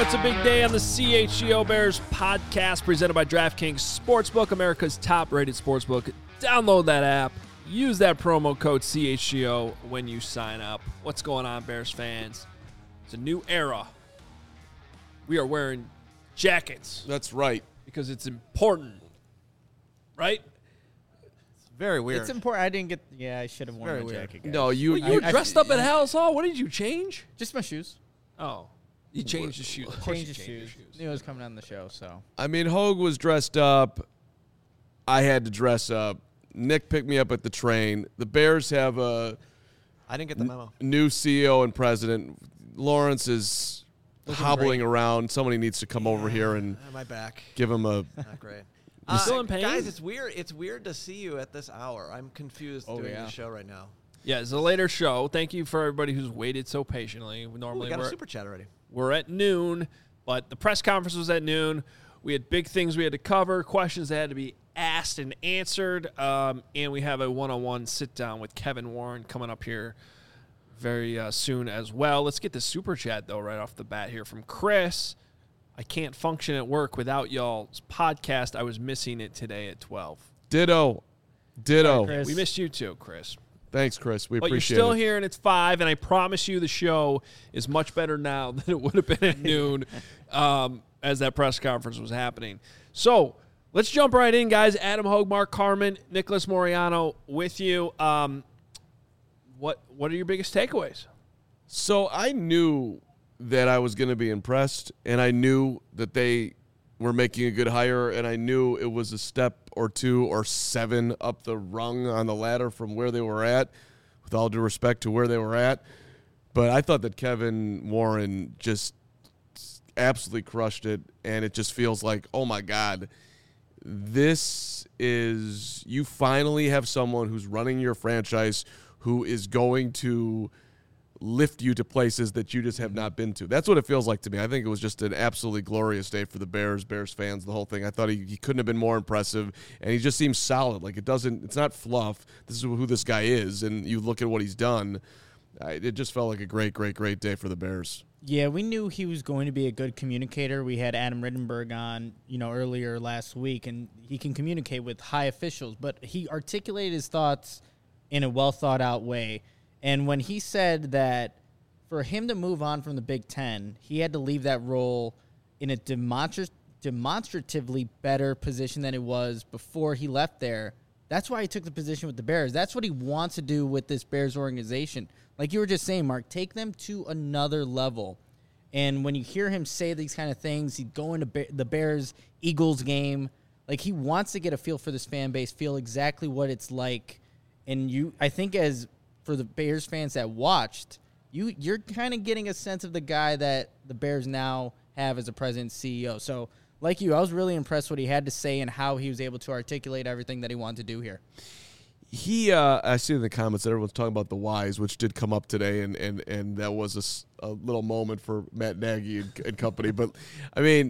it's a big day on the CHGO Bears podcast presented by DraftKings Sportsbook, America's top-rated sportsbook. Download that app. Use that promo code CHGO when you sign up. What's going on, Bears fans? It's a new era. We are wearing jackets. That's right. Because it's important. Right? It's very weird. It's important. I didn't get... Yeah, I should have worn my jacket, guys. No, you were dressed up at House Hall. What did you change? Just my shoes. Oh. You changed the shoes. Of course you changed the shoes. Knew it was coming on the show, so. I mean, Hogue was dressed up. I had to dress up. Nick picked me up at the train. The Bears have a I didn't get the memo. New CEO and president. Lawrence is hobbling around. Somebody needs to come over here and my back. give him a... Not great. You still in pain? Guys, it's weird. It's weird to see you at this hour. I'm confused doing the show right now. Yeah, it's a later show. Thank you for everybody who's waited so patiently. We got a super chat already. We're at noon, but the press conference was at noon. We had big things we had to cover, questions that had to be asked and answered, and we have a one-on-one sit-down with Kevin Warren coming up here very soon as well. Let's get the super chat, though, right off the bat here from Chris. I can't function at work without y'all's podcast. I was missing it today at 12. Ditto. Sorry, We missed you, too, Chris. Thanks, Chris. We But appreciate it. you're still here, and it's 5, and I promise you the show is much better now than it would have been at noon as that press conference was happening. So let's jump right in, guys. Adam Hogue, Mark Carman, Nicholas Moriano with you. What are your biggest takeaways? So I knew that I was going to be impressed, and I knew that they were making a good hire, and I knew it was a step or 2 or 7 up the rung on the ladder from where they were at, with all due respect to where they were at. But I thought that Kevin Warren just absolutely crushed it, and it just feels like, oh, my God, this is – you finally have someone who's running your franchise who is going to – lift you to places that you just have not been to. That's what it feels like to me. I think it was just an absolutely glorious day for the Bears fans, the whole thing. I thought he couldn't have been more impressive, and he just seems solid. Like it's not fluff. This is who this guy is, and you look at what he's done. It just felt like a great, great, great day for the Bears. Yeah, we knew he was going to be a good communicator. We had Adam Rittenberg on, earlier last week, and he can communicate with high officials, but he articulated his thoughts in a well-thought-out way. And when he said that for him to move on from the Big Ten, he had to leave that role in a demonstratively better position than it was before he left there, that's why he took the position with the Bears. That's what he wants to do with this Bears organization. Like you were just saying, Mark, take them to another level. And when you hear him say these kind of things, he'd go into the Bears-Eagles game. Like he wants to get a feel for this fan base, feel exactly what it's like. And I think for the Bears fans that watched, you're kind of getting a sense of the guy that the Bears now have as a president CEO. So, like you, I was really impressed what he had to say and how he was able to articulate everything that he wanted to do here. I see in the comments that everyone's talking about the whys, which did come up today, and that was a little moment for Matt Nagy and company. But, I mean,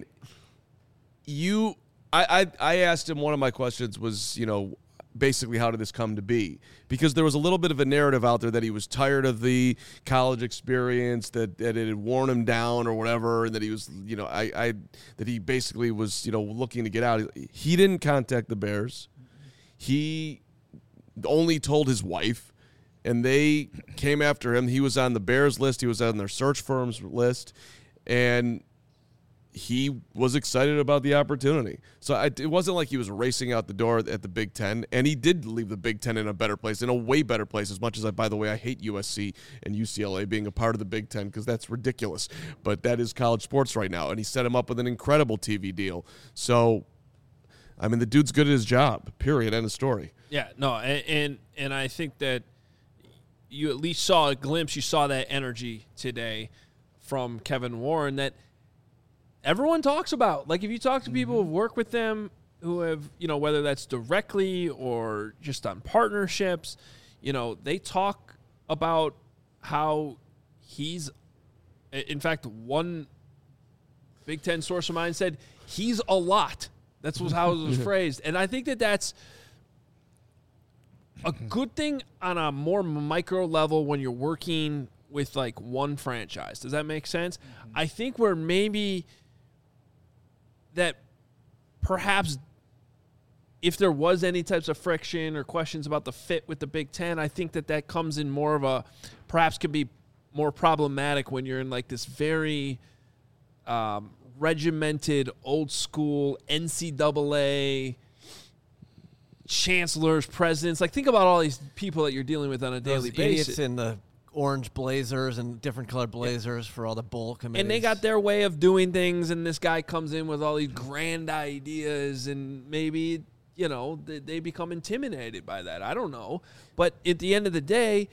I asked him, one of my questions was, basically how did this come to be? Because there was a little bit of a narrative out there that he was tired of the college experience, that it had worn him down or whatever, and that he was, that he basically was, looking to get out. He didn't contact the Bears. He only told his wife, and they came after him. He was on the Bears list. He was on their search firm's list, and he was excited about the opportunity. So it wasn't like he was racing out the door at the Big Ten, and he did leave the Big Ten in a better place, in a way better place, as much as, by the way, I hate USC and UCLA being a part of the Big Ten because that's ridiculous. But that is college sports right now, and he set him up with an incredible TV deal. So, I mean, the dude's good at his job, period, end of story. Yeah, no, and I think that you at least saw a glimpse, you saw that energy today from Kevin Warren that everyone talks about. Like, if you talk to people who've worked with them, who have, whether that's directly or just on partnerships, they talk about how he's, in fact, one Big Ten source of mine said, he's a lot. That's how it was phrased. And I think that that's a good thing on a more micro level when you're working with like one franchise. Does that make sense? I think where maybe that perhaps if there was any types of friction or questions about the fit with the Big Ten, I think that comes in more of a perhaps could be more problematic when you're in like this very regimented, old school NCAA chancellors, presidents. Like, think about all these people that you're dealing with on a daily basis. Idiots in the orange blazers and different colored blazers for all the bowl committees. And they got their way of doing things, and this guy comes in with all these grand ideas, and maybe, you know, they become intimidated by that. I don't know. But at the end of the day,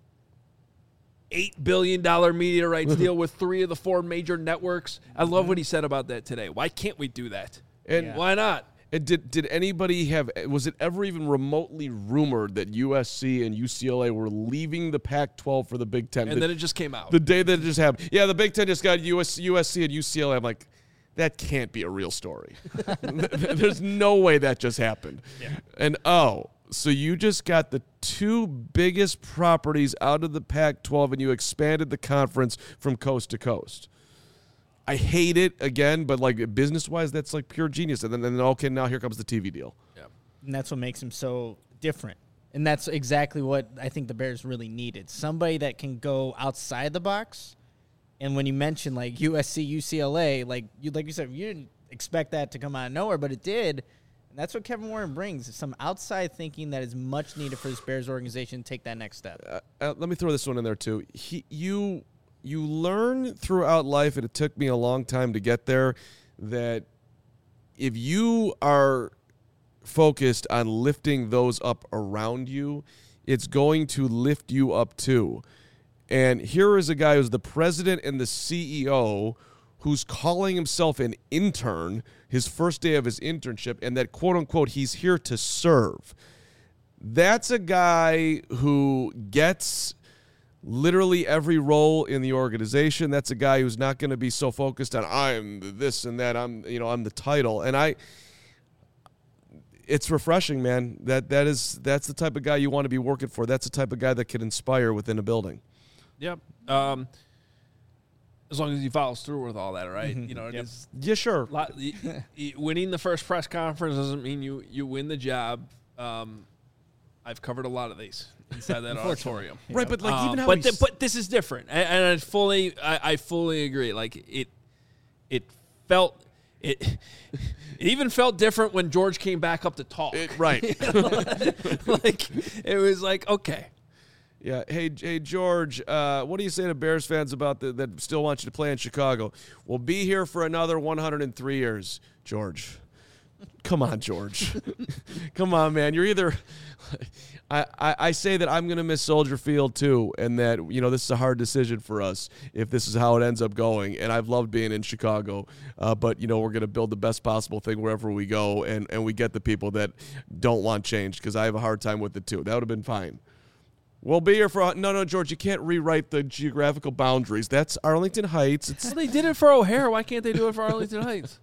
$8 billion media rights deal with 3 of the 4 major networks. I love what he said about that today. Why can't we do that? And why not? And did anybody was it ever even remotely rumored that USC and UCLA were leaving the Pac-12 for the Big Ten? And then it just came out. The day that it just happened. Yeah, the Big Ten just got USC and UCLA. I'm like, that can't be a real story. There's no way that just happened. Yeah. And so you just got the 2 biggest properties out of the Pac-12 and you expanded the conference from coast to coast. I hate it again, but like business-wise, that's like pure genius. And then okay, now here comes the TV deal. Yeah. And that's what makes him so different. And that's exactly what I think the Bears really needed. Somebody that can go outside the box. And when you mention like USC, UCLA, like you said, you didn't expect that to come out of nowhere, but it did. And that's what Kevin Warren brings, some outside thinking that is much needed for this Bears organization to take that next step. Let me throw this one in there too. You learn throughout life, and it took me a long time to get there, that if you are focused on lifting those up around you, it's going to lift you up too. And here is a guy who's the president and the CEO who's calling himself an intern, his first day of his internship, and that, quote-unquote, he's here to serve. That's a guy who gets literally every role in the organization. That's a guy who's not going to be so focused on I'm this and that. I'm the title. And it's refreshing, man. That's the type of guy you want to be working for. That's the type of guy that can inspire within a building. Yep. As long as he follows through with all that, right? Mm-hmm. You know, it's yeah, sure. Winning the first press conference doesn't mean you win the job. I've covered a lot of these inside that auditorium, right? But like even how, but this is different, and I fully agree. Like it even felt different when George came back up to talk. Right? Like it was like, okay. Yeah. Hey, George, what do you say to Bears fans about that still want you to play in Chicago? We'll be here for another 103 years, George. Come on, George. Come on, man. You're either I say that I'm going to miss Soldier Field too, and that, you know, this is a hard decision for us if this is how it ends up going. And I've loved being in Chicago, but, you know, we're going to build the best possible thing wherever we go, and we get the people that don't want change, because I have a hard time with it too. That would have been fine. We'll be here for no, George. You can't rewrite the geographical boundaries. That's Arlington Heights. Well, they did it for O'Hare. Why can't they do it for Arlington Heights?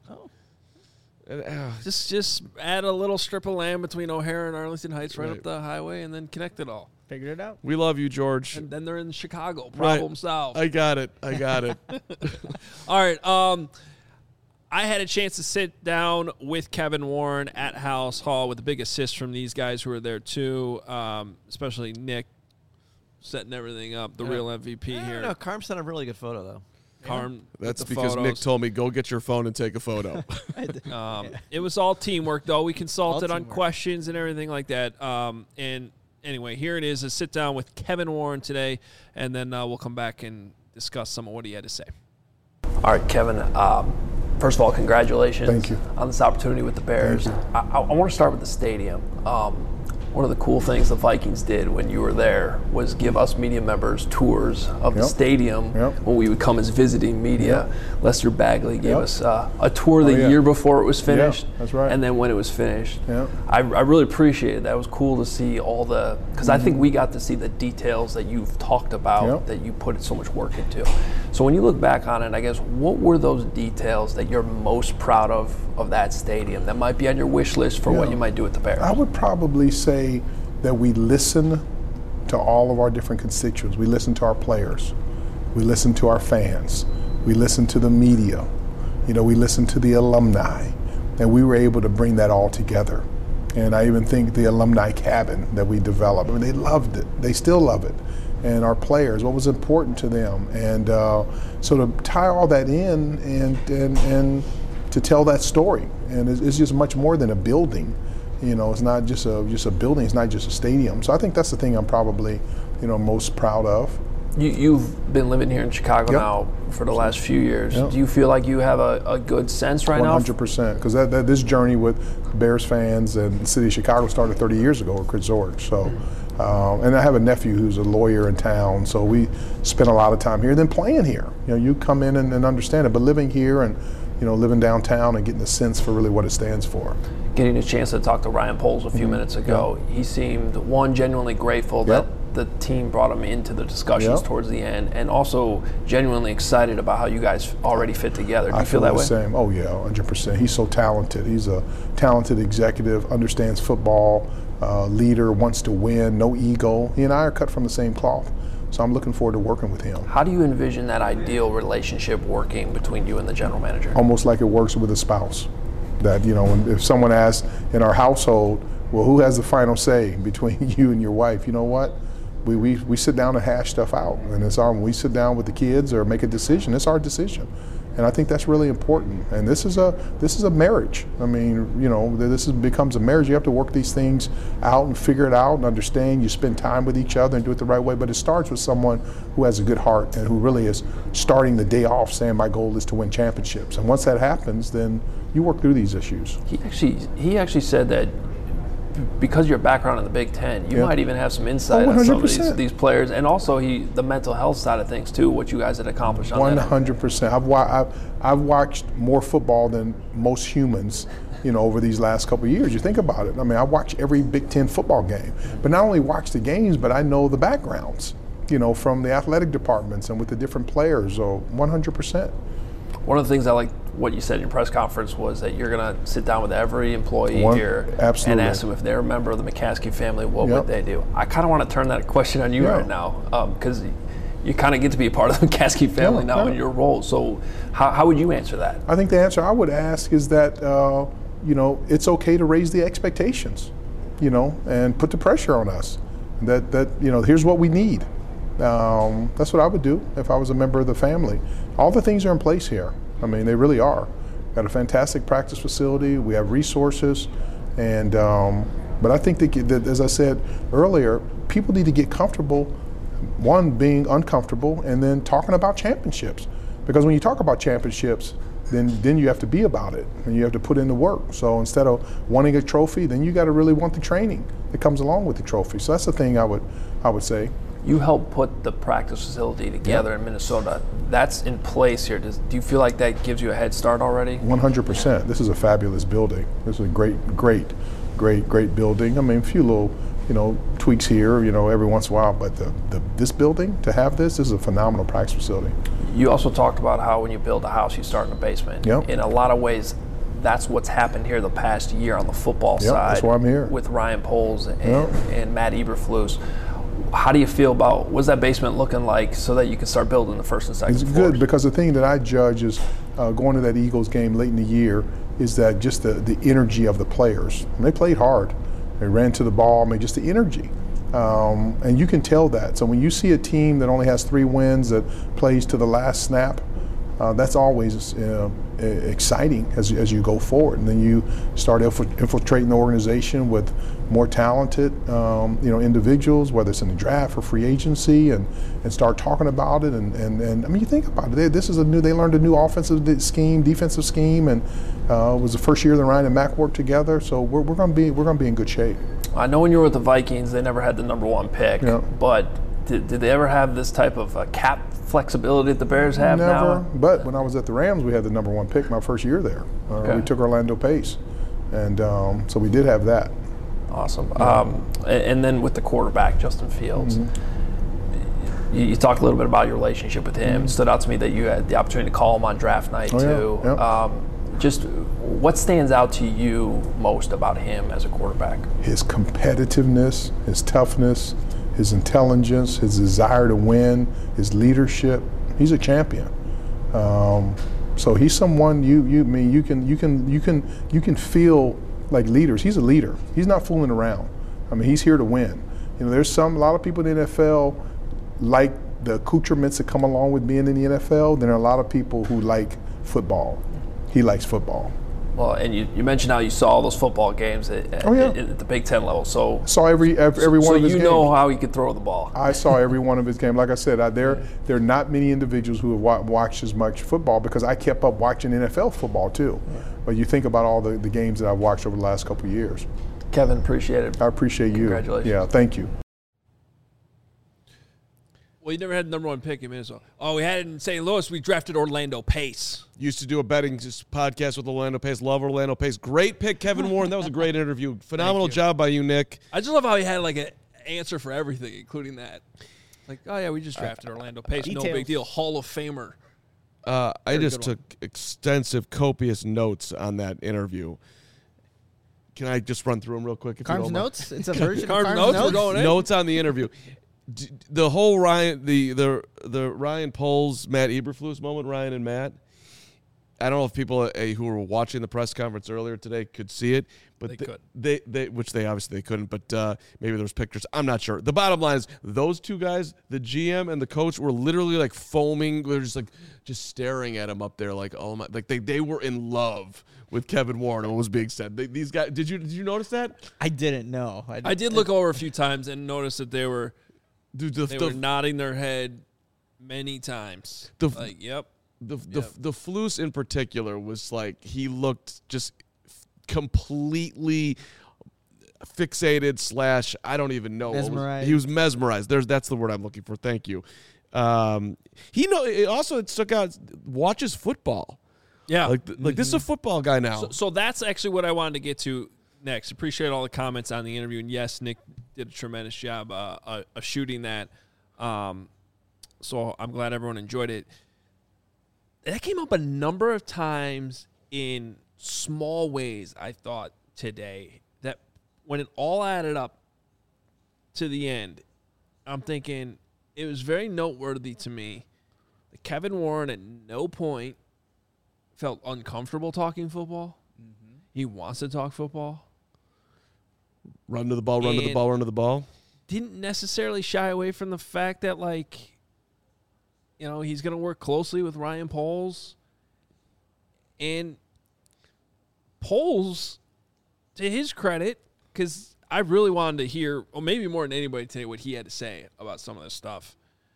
Just add a little strip of land between O'Hare and Arlington Heights, right up the highway, and then connect it all. Figured it out. We love you, George. And then they're in Chicago. Problem solved. I got it. All right. I had a chance to sit down with Kevin Warren at Halas Hall with the big assist from these guys who were there too, especially Nick, setting everything up, the real MVP here. No, Carm sent a really good photo, though. Carm, that's because Nick told me, go get your phone and take a photo. It was all teamwork, though. We consulted on questions and everything like that. And anyway, here it is, a sit down with Kevin Warren today, and then we'll come back and discuss some of what he had to say. All right, Kevin, first of all, congratulations. Thank you. On this opportunity with the Bears. I want to start with the stadium. One of the cool things the Vikings did when you were there was give us media members tours of the stadium when we would come as visiting media. Lester Bagley gave us a tour the year before it was finished. That's right. And then when it was finished. I really appreciated that. It was cool to see all the, because I think we got to see the details that you've talked about, that you put so much work into. So when you look back on it, I guess, what were those details that you're most proud of that stadium that might be on your wish list for what you might do with the Bears? I would probably say that we listen to all of our different constituents. We listen to our players. We listen to our fans. We listen to the media. We listen to the alumni. And we were able to bring that all together. And I even think the alumni cabin that we developed, they loved it. They still love it. And our players, what was important to them. And so to tie all that in and to tell that story. And it's just much more than a building. It's not just a building. It's not just a stadium. So I think that's the thing I'm probably, most proud of. You've been living here in Chicago now for the last few years. Do you feel like you have a good sense right now? 100%. Because this journey with Bears fans and the city of Chicago started 30 years ago with Chris Zorich. So, and I have a nephew who's a lawyer in town. So we spend a lot of time here. Then playing here. You come in and understand it. But living here and living downtown and getting a sense for really what it stands for. Getting a chance to talk to Ryan Poles a few minutes ago, he seemed, genuinely grateful that the team brought him into the discussions towards the end, and also genuinely excited about how you guys already fit together. Do you feel that way? Same. Oh yeah, 100%. He's so talented. He's a talented executive, understands football, leader, wants to win, no ego. He and I are cut from the same cloth. So I'm looking forward to working with him. How do you envision that ideal relationship working between you and the general manager? Almost like it works with a spouse. That, if someone asks in our household, well, who has the final say between you and your wife? You know what? We sit down and hash stuff out. And when we sit down with the kids or make a decision, it's our decision. And I think that's really important. And this is a marriage. I mean, becomes a marriage. You have to work these things out and figure it out and understand. You spend time with each other and do it the right way. But it starts with someone who has a good heart and who really is starting the day off saying, my goal is to win championships. And once that happens, then you work through these issues. He actually said that because of your background in the Big Ten, you might even have some insight on some of these players, and also the mental health side of things too, what you guys had accomplished on 100%. I've watched more football than most humans, over these last couple of years. You think about it. I mean, I watch every Big Ten football game, but not only watch the games, but I know the backgrounds, from the athletic departments and with the different players. So 100%. One of the things I liked what you said in your press conference was that you're going to sit down with every employee here and ask them if they're a member of the McCaskey family, what would they do? I kind of want to turn that question on you right now, because you kind of get to be a part of the McCaskey family now in your role. So how would you answer that? I think the answer I would ask is that, it's okay to raise the expectations, and put the pressure on us. That here's what we need. That's what I would do if I was a member of the family. All the things are in place here. I mean, they really are. Got a fantastic practice facility. We have resources, and but I think that, as I said earlier, people need to get comfortable. One, being uncomfortable, and then talking about championships. Because when you talk about championships, then you have to be about it, and you have to put in the work. So instead of wanting a trophy, then you got to really want the training that comes along with the trophy. So that's the thing I would say. You helped put the practice facility together in Minnesota. That's in place here. Do you feel like that gives you a head start already? 100%. This is a fabulous building. This is a great building. I mean, a few little, tweaks here, every once in a while. But this building, to have this is a phenomenal practice facility. You also talked about how when you build a house, you start in the basement. Yep. In a lot of ways, that's what's happened here the past year on the football side. That's why I'm here. With Ryan Poles and Matt Eberflus. How do you feel about, what's that basement looking like so that you can start building the first and second floors? It's good, because the thing that I judge is going to that Eagles game late in the year is that just the energy of the players. And they played hard. They ran to the ball. I mean, just the energy. And you can tell that. So when you see a team that only has 3 wins that plays to the last snap, that's always exciting as you go forward. And then you start infiltrating the organization with more talented individuals, whether it's in the draft or free agency, and start talking about it. And I mean, you think about it. They learned a new offensive scheme, defensive scheme, and it was the first year that Ryan and Mac worked together. So we're going to be in good shape. I know when you were with the Vikings, they never had the #1 pick, but did they ever have this type of cap flexibility that the Bears have now? Never. But when I was at the Rams, we had the #1 pick my first year there. We took Orlando Pace, and so we did have that. Awesome. And then with the quarterback, Justin Fields, you talked a little bit about your relationship with him. It stood out to me that you had the opportunity to call him on draft night too. Yeah. Just what stands out to you most about him as a quarterback? His competitiveness, his toughness, his intelligence, his desire to win, his leadership. He's a champion. So he's someone you can feel like leaders. He's a leader. He's not fooling around. I mean, he's here to win. You know, there's a lot of people in the NFL like the accoutrements that come along with being in the NFL. Then there are a lot of people who like football. He likes football. Well, and you mentioned how you saw all those football games at the Big Ten level. So saw every one of his games. So you know how he could throw the ball. I saw every one of his games. Like I said, there are not many individuals who have watched as much football because I kept up watching NFL football too. Yeah. But you think about all the games that I've watched over the last couple of years. Kevin, appreciate it. I appreciate you. Congratulations. Yeah, thank you. Well, you never had the number one pick in Minnesota. Oh, we had it in St. Louis. We drafted Orlando Pace. Used to do a betting podcast with Orlando Pace. Love Orlando Pace. Great pick, Kevin Warren. That was a great interview. Phenomenal job by you, Nick. I just love how he had like an answer for everything, including that. Like, oh, yeah, we just drafted Orlando Pace. No big deal. Hall of Famer. I just took extensive, copious notes on that interview. Can I just run through them real quick? Carm's notes? It's a version of Carm's notes? We're going in. Notes on the interview. The whole Ryan, the Ryan Poles, Matt Eberflus moment, Ryan and Matt. I don't know if people who were watching the press conference earlier today could see it, but they which they obviously couldn't. But maybe there was pictures. I'm not sure. The bottom line is those two guys, the GM and the coach, were literally like foaming. They're just staring at him up there, like oh my, like they were in love with Kevin Warren and what was being said. These guys, did you notice that? I didn't know. I did look over a few times and notice that they were. They were nodding their head many times. Yep. The Flus in particular was like he looked just completely fixated / I don't even know. Mesmerized. He was mesmerized. That's the word I'm looking for. Thank you. It stuck out. Watches football. Yeah. Like this is a football guy now. So that's actually what I wanted to get to next. Appreciate all the comments on the interview, and yes, Nick did a tremendous job of shooting that. So I'm glad everyone enjoyed it. That came up a number of times in small ways, I thought, today, that when it all added up to the end, I'm thinking it was very noteworthy to me that Kevin Warren at no point felt uncomfortable talking football. Mm-hmm. He wants to talk football. Run to the ball, run to the ball, run to the ball. Didn't necessarily shy away from the fact that, like, you know, he's going to work closely with Ryan Poles. And Poles, to his credit, because I really wanted to hear, or maybe more than anybody today, what he had to say about some of this stuff.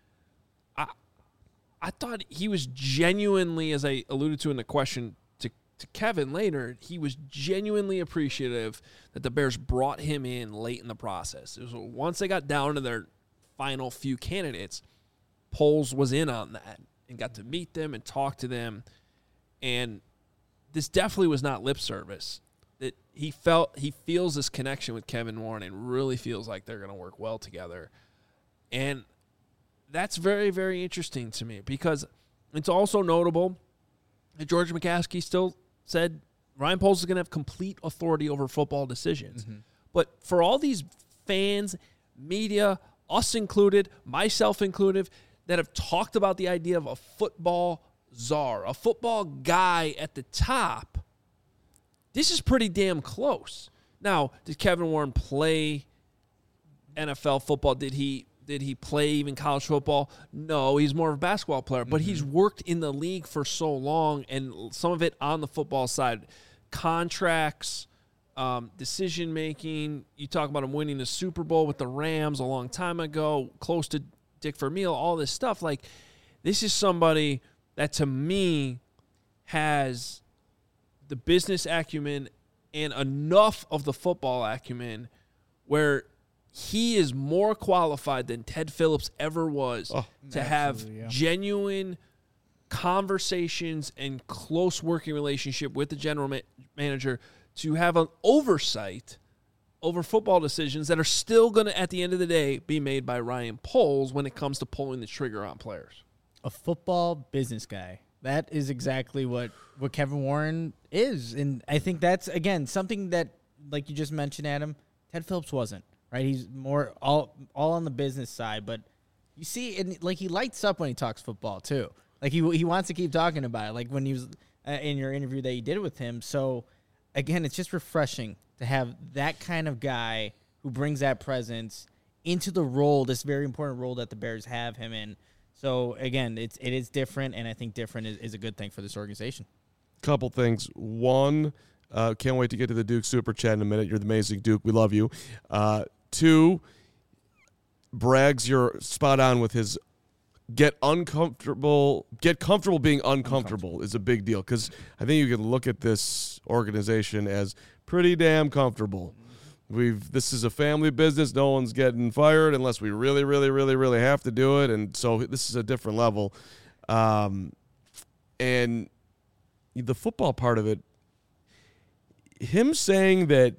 I thought he was genuinely, as I alluded to in the question to Kevin later, he was genuinely appreciative that the Bears brought him in late in the process. It was once they got down to their final few candidates, Poles was in on that and got to meet them and talk to them. And this definitely was not lip service. That he feels this connection with Kevin Warren and really feels like they're going to work well together. And that's very, very interesting to me because it's also notable that George McCaskey still said Ryan Poles is going to have complete authority over football decisions. Mm-hmm. But for all these fans, media, us included, myself included, that have talked about the idea of a football czar, a football guy at the top, this is pretty damn close. Now, did Kevin Warren play NFL football? Did he play even college football? No, he's more of a basketball player, but he's worked in the league for so long, and some of it on the football side. Contracts, decision-making. You talk about him winning the Super Bowl with the Rams a long time ago, close to Dick Vermeil, all this stuff. Like, this is somebody that, to me, has the business acumen and enough of the football acumen where he is more qualified than Ted Phillips ever was to have genuine conversations and close working relationship with the general manager, to have an oversight over football decisions that are still going to, at the end of the day, be made by Ryan Poles when it comes to pulling the trigger on players. A football business guy. That is exactly what Kevin Warren is. And I think that's, again, something that, like you just mentioned, Adam, Ted Phillips wasn't. Right, he's more all on the business side, but You see, and like he lights up when he talks football too. Like he wants to keep talking about it. Like when he was in your interview that you did with him. So again, it's just refreshing to have that kind of guy who brings that presence into the role, this very important role that the Bears have him in. So again, it is different, and I think different is a good thing for this organization. Couple things. One, can't wait to get to the Duke Super Chat in a minute. You're the amazing Duke. We love you. Two, Braggs, you're spot on with his get comfortable being uncomfortable is a big deal, because I think you can look at this organization as pretty damn comfortable. This is a family business. No one's getting fired unless we really, really, really, really have to do it. And so this is a different level. And the football part of it, him saying that,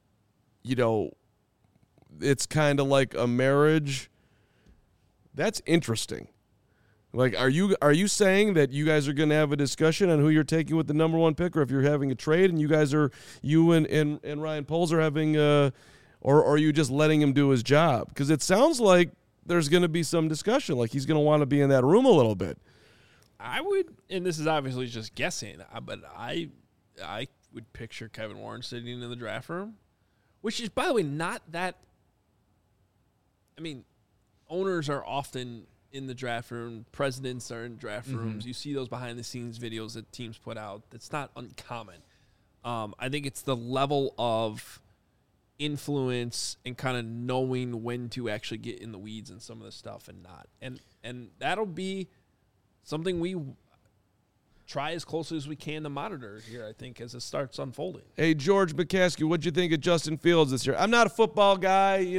it's kind of like a marriage, that's interesting. Like, are you saying that you guys are going to have a discussion on who you're taking with the number one pick, or if you're having a trade and you and Ryan Poles are having or are you just letting him do his job? Because it sounds like there's going to be some discussion, like he's going to want to be in that room a little bit. I would, and this is obviously just guessing, but I would picture Kevin Warren sitting in the draft room, which is, by the way, not that. I mean, owners are often in the draft room. Presidents are in draft rooms. You see those behind-the-scenes videos that teams put out. That's not uncommon. I think it's the level of influence and kind of knowing when to actually get in the weeds and some of the stuff and not. And that'll be something we try as closely as we can to monitor here, I think, as it starts unfolding. Hey, George McCaskey, what'd you think of Justin Fields this year? I'm not a football guy, he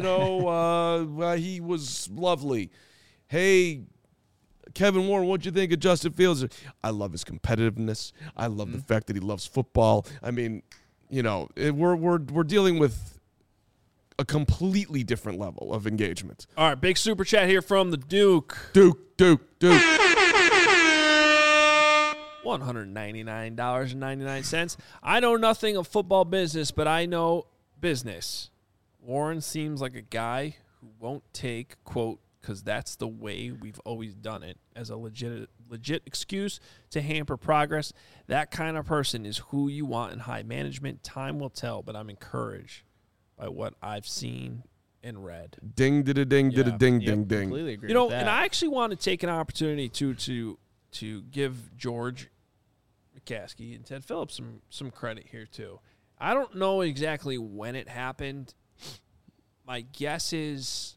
was lovely. Hey, Kevin Warren, what'd you think of Justin Fields? I love his competitiveness. I love the fact that he loves football. I mean, we're dealing with a completely different level of engagement. All right, big super chat here from the Duke. Duke. $199.99. I know nothing of football business, but I know business. Warren seems like a guy who won't take, quote, because that's the way we've always done it, as a legit excuse to hamper progress. That kind of person is who you want in high management. Time will tell, but I'm encouraged by what I've seen and read. Ding, ding, ding, ding. Completely agree with that. And I actually want to take an opportunity to give George McCaskey and Ted Phillips some credit here too. I don't know exactly when it happened. My guess is,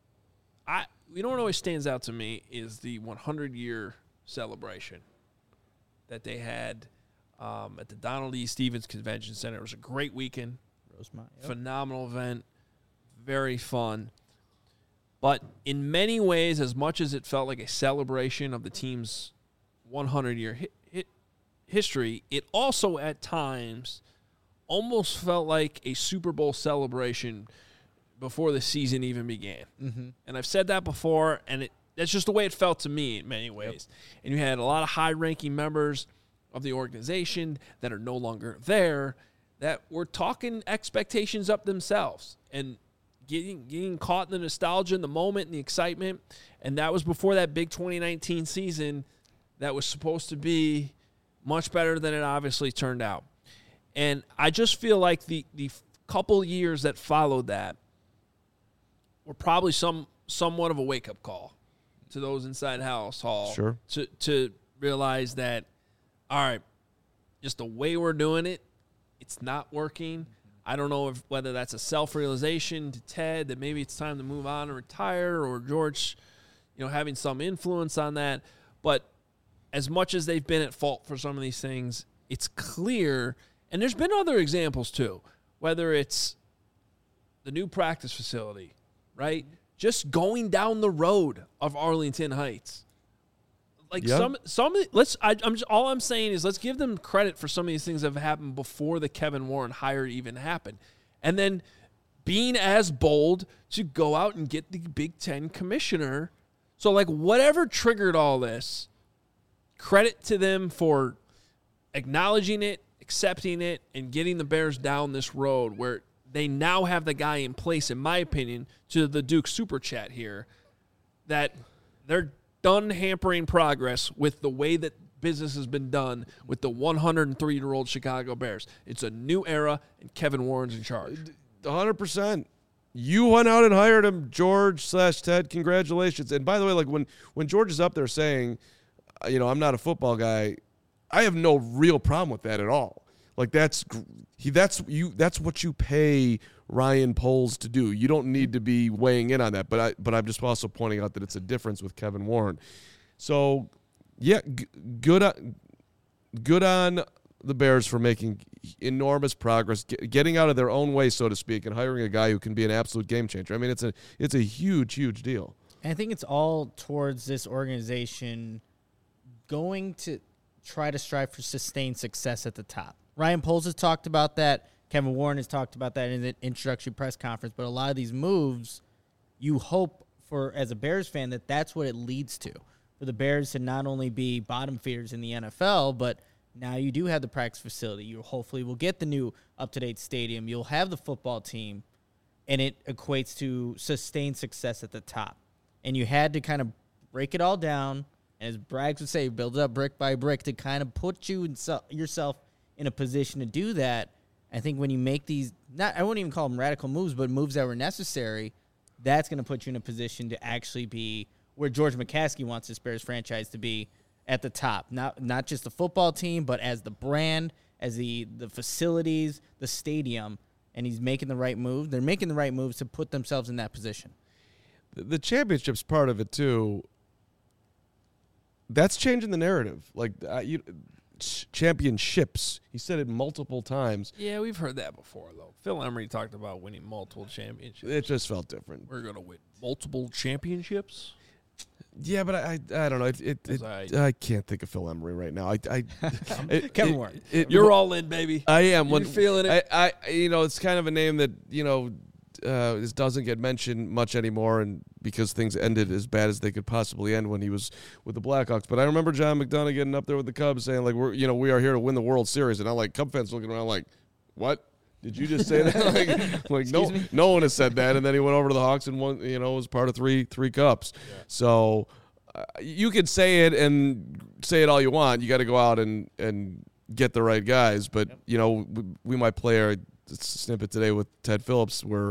you know what always stands out to me is the 100-year celebration that they had at the Donald E. Stevens Convention Center. It was a great weekend. Rosemont, phenomenal event, very fun. But in many ways, as much as it felt like a celebration of the team's 100-year history, it also at times almost felt like a Super Bowl celebration before the season even began. And I've said that before, and that's just the way it felt to me in many ways. And you had a lot of high-ranking members of the organization that are no longer there that were talking expectations up themselves and getting caught in the nostalgia in the moment and the excitement. And that was before that big 2019 season that was supposed to be much better than it obviously turned out. And I just feel like the couple years that followed that were probably somewhat of a wake-up call to those inside House Hall. Sure. To realize that, all right, just the way we're doing it, it's not working. I don't know whether that's a self-realization to Ted that maybe it's time to move on and retire, or George, having some influence on that. But as much as they've been at fault for some of these things, it's clear, and there's been other examples too, whether it's the new practice facility, right? Just going down the road of Arlington Heights. Like all I'm saying is let's give them credit for some of these things that have happened before the Kevin Warren hire even happened. And then being as bold to go out and get the Big Ten commissioner. So like whatever triggered all this, credit to them for acknowledging it, accepting it, and getting the Bears down this road where they now have the guy in place, in my opinion, to the Duke Super Chat here, that they're done hampering progress with the way that business has been done with the 103-year-old Chicago Bears. It's a new era, and Kevin Warren's in charge. 100%. You went out and hired him, George/Ted. Congratulations. And by the way, like when George is up there saying, I'm not a football guy, I have no real problem with that at all. Like that's what you pay Ryan Poles to do. You don't need to be weighing in on that. But I'm just also pointing out that it's a difference with Kevin Warren. So yeah, good on the Bears for making enormous progress, getting out of their own way, so to speak, and hiring a guy who can be an absolute game changer. I mean, it's a huge, huge deal. And I think it's all towards this organization going to try to strive for sustained success at the top. Ryan Poles has talked about that. Kevin Warren has talked about that in the introductory press conference. But a lot of these moves, you hope for, as a Bears fan, that that's what it leads to. For the Bears to not only be bottom feeders in the NFL, but now you do have the practice facility. You hopefully will get the new up-to-date stadium. You'll have the football team, and it equates to sustained success at the top. And you had to kind of break it all down, and as Braggs would say, build it up brick by brick to kind of put yourself in a position to do that. I think when you make these, I wouldn't even call them radical moves, but moves that were necessary, that's going to put you in a position to actually be where George McCaskey wants this Bears franchise to be at the top. Not just the football team, but as the brand, as the facilities, the stadium, and he's making the right move. They're making the right moves to put themselves in that position. The championship's part of it, too. That's changing the narrative. Like, championships. He said it multiple times. Yeah, we've heard that before, though. Phil Emery talked about winning multiple championships. It just felt different. We're going to win multiple championships? Yeah, but I don't know. I can't think of Phil Emery right now. Kevin Warren. You're all in, baby. I am. You're feeling it. It's kind of a name that, this doesn't get mentioned much anymore, and because things ended as bad as they could possibly end when he was with the Blackhawks. But I remember John McDonough getting up there with the Cubs saying, like, we are here to win the World Series. And I'm like, Cub fans looking around like, what? Did you just say that? like no one has said that. And then he went over to the Hawks and won, was part of three cups. Yeah. So you could say it and say it all you want. You got to go out and get the right guys. But, we might play a snippet today with Ted Phillips where,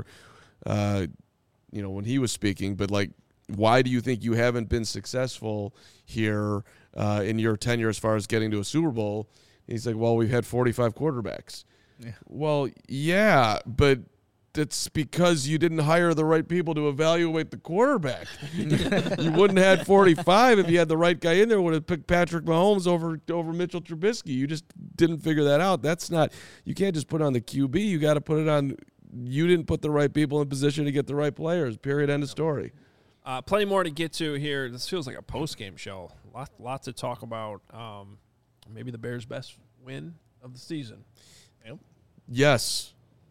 when he was speaking. But, like, why do you think you haven't been successful here in your tenure as far as getting to a Super Bowl? And he's like, well, we've had 45 quarterbacks. Yeah. Well, yeah, but it's because you didn't hire the right people to evaluate the quarterback. You wouldn't have had 45 if you had the right guy in there. Would have picked Patrick Mahomes over Mitchell Trubisky. You just didn't figure that out. That's not. You can't just put it on the QB. You got to put it on. You didn't put the right people in position to get the right players. Period. End of story. Plenty more to get to here. This feels like a post-game show. Lots to talk about. Maybe the Bears' best win of the season. Yes.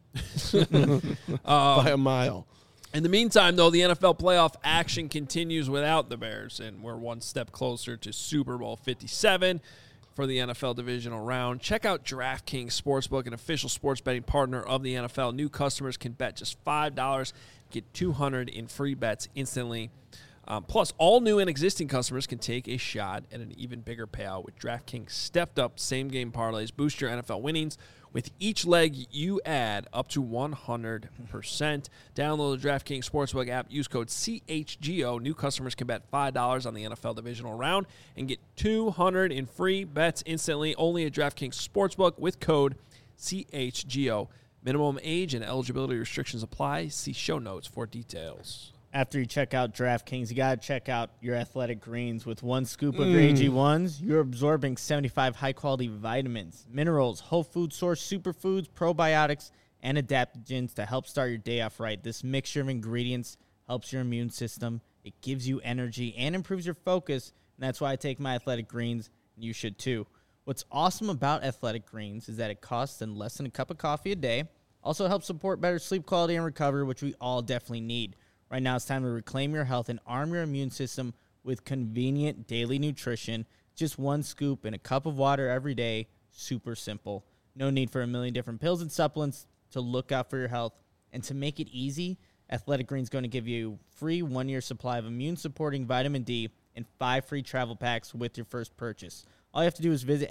By a mile. In the meantime, though, the NFL playoff action continues without the Bears, and we're one step closer to Super Bowl 57 for the NFL divisional round. Check out DraftKings Sportsbook, an official sports betting partner of the NFL. New customers can bet just $5, get $200 in free bets instantly. Plus, all new and existing customers can take a shot at an even bigger payout with DraftKings stepped-up same-game parlays. Boost your NFL winnings. With each leg, you add up to 100%. Download the DraftKings Sportsbook app. Use code CHGO. New customers can bet $5 on the NFL divisional round and get $200 in free bets instantly. Only at DraftKings Sportsbook with code CHGO. Minimum age and eligibility restrictions apply. See show notes for details. After you check out DraftKings, you got to check out your Athletic Greens. With one scoop of your AG1s, you're absorbing 75 high-quality vitamins, minerals, whole food source superfoods, probiotics, and adaptogens to help start your day off right. This mixture of ingredients helps your immune system. It gives you energy and improves your focus, and that's why I take my Athletic Greens, and you should too. What's awesome about Athletic Greens is that it costs less than a cup of coffee a day. Also helps support better sleep quality and recovery, which we all definitely need. Right now, it's time to reclaim your health and arm your immune system with convenient daily nutrition. Just one scoop in a cup of water every day. Super simple. No need for a million different pills and supplements to look out for your health. And to make it easy, Athletic Greens going to give you free 1-year supply of immune-supporting vitamin D and 5 free travel packs with your first purchase. All you have to do is visit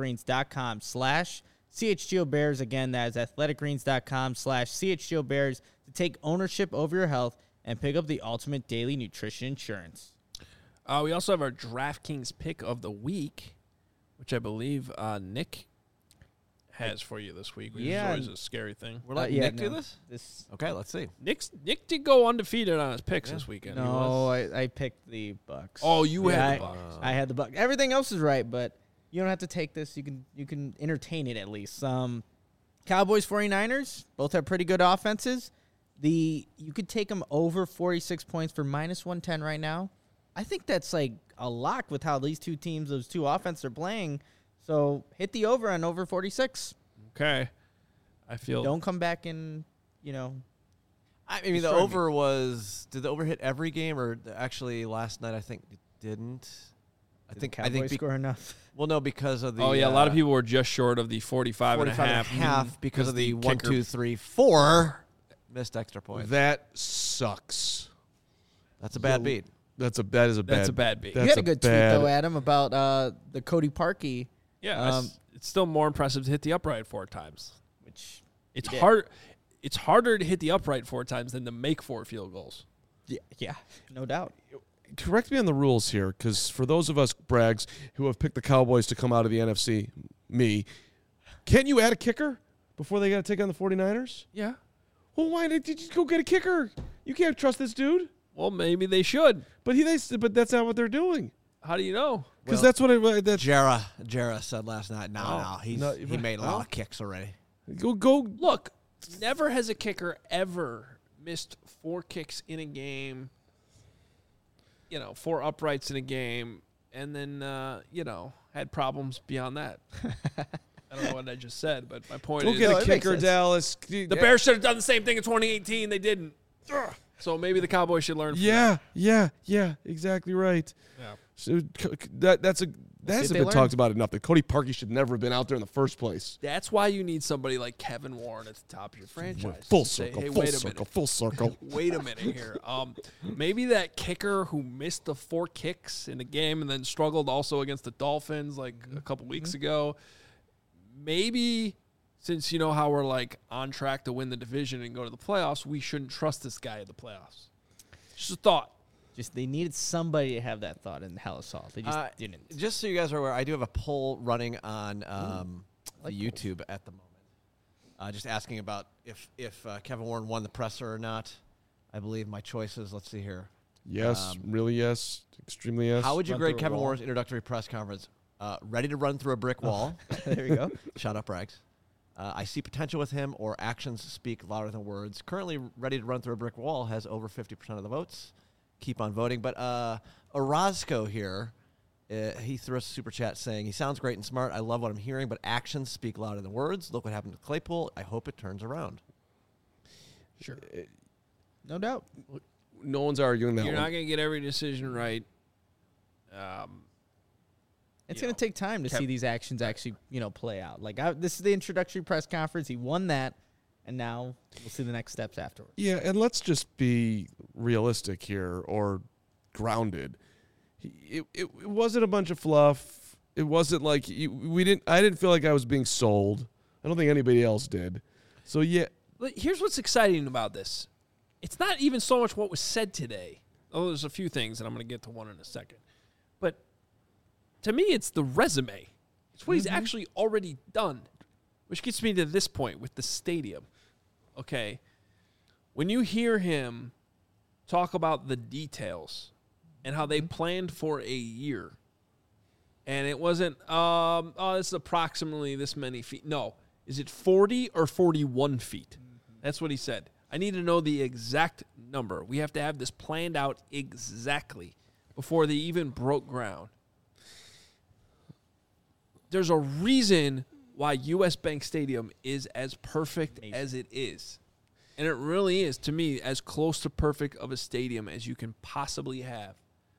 athleticgreens.com/CHGOBears. Again, that is athleticgreens.com/CHGOBears to take ownership over your health and pick up the ultimate daily nutrition insurance. We also have our DraftKings pick of the week, which I believe Nick has for you this week, which is always a scary thing. We're letting Nick do this? Okay, let's see. Nick did go undefeated on his picks this weekend. No, I picked the Bucks. Oh, you had the Bucks. I had the Bucks. Everything else is right, but you don't have to take this. You can entertain it at least. Cowboys 49ers both have pretty good offenses. You could take them over 46 points for -110 right now. I think that's like a lock with how these two teams, those two offenses are playing. So hit the over on over 46. Okay. I feel. Don't come back and, I mean, the over did the over hit every game, or actually last night I think it didn't? I think score enough. Well, no, because of the. Oh, yeah. A lot of people were just short of the 45 and a half because of the 1, 2, 3, 4 missed extra points. That sucks. That's a bad beat. That's a bad beat. You had a good tweet, though, Adam, about the Cody Parkey. Yeah, it's still more impressive to hit the upright 4 times. Which it's hard. It's harder to hit the upright 4 times than to make 4 field goals. Yeah, no doubt. Correct me on the rules here, because for those of us Brags who have picked the Cowboys to come out of the NFC, can't you add a kicker before they got to take on the 49ers? Yeah. Well, why did you just go get a kicker? You can't trust this dude. Well, maybe they should, but that's not what they're doing. How do you know? Because that's what Jarrah said last night. He made a lot of kicks already. Go look. Never has a kicker ever missed 4 kicks in a game. 4 uprights in a game, and then had problems beyond that. I don't know what I just said, but my point is, go get a kicker, Dallas. The Bears should have done the same thing in 2018. They didn't. So maybe the Cowboys should learn from that. Yeah, exactly right. Yeah. So that hasn't been talked about enough. That Cody Parkey should never have been out there in the first place. That's why you need somebody like Kevin Warren at the top of your franchise. Full circle. Wait a minute here. Maybe that kicker who missed the 4 kicks in the game and then struggled also against the Dolphins like a couple weeks ago. Maybe since you know how we're like on track to win the division and go to the playoffs, we shouldn't trust this guy at the playoffs. Just a thought. They needed somebody to have that thought in Hell Assault. They just didn't. Just so you guys are aware, I do have a poll running on YouTube at the moment. Just asking about if Kevin Warren won the presser or not. I believe my choices. Let's see here. Yes, really yes, extremely yes. How would you grade Kevin Warren's introductory press conference? Ready to run through a brick wall. There you go. Shut up, Rags. I see potential with him, or actions speak louder than words. Currently ready to run through a brick wall has over 50% of the votes. Keep on voting. But Orozco here, he threw us a super chat saying, he sounds great and smart. I love what I'm hearing, but actions speak louder than words. Look what happened to Claypool. I hope it turns around. Sure. No doubt. No one's arguing that. You're not going to get every decision right. It's going to take time to see these actions actually, play out. This is the introductory press conference. He won that. And now we'll see the next steps afterwards. Yeah, and let's just be realistic here, or grounded. It wasn't a bunch of fluff. It wasn't like I didn't feel like I was being sold. I don't think anybody else did. So yeah. Here's what's exciting about this. It's not even so much what was said today. Oh, there's a few things, and I'm going to get to one in a second. But to me, it's the resume. It's what he's actually already done, which gets me to this point with the stadium. Okay, when you hear him talk about the details and how they planned for a year, and it wasn't, this is approximately this many feet. No, is it 40 or 41 feet? That's what he said. I need to know the exact number. We have to have this planned out exactly before they even broke ground. There's a reason why U.S. Bank Stadium is as perfect as it is. And it really is, to me, as close to perfect of a stadium as you can possibly have.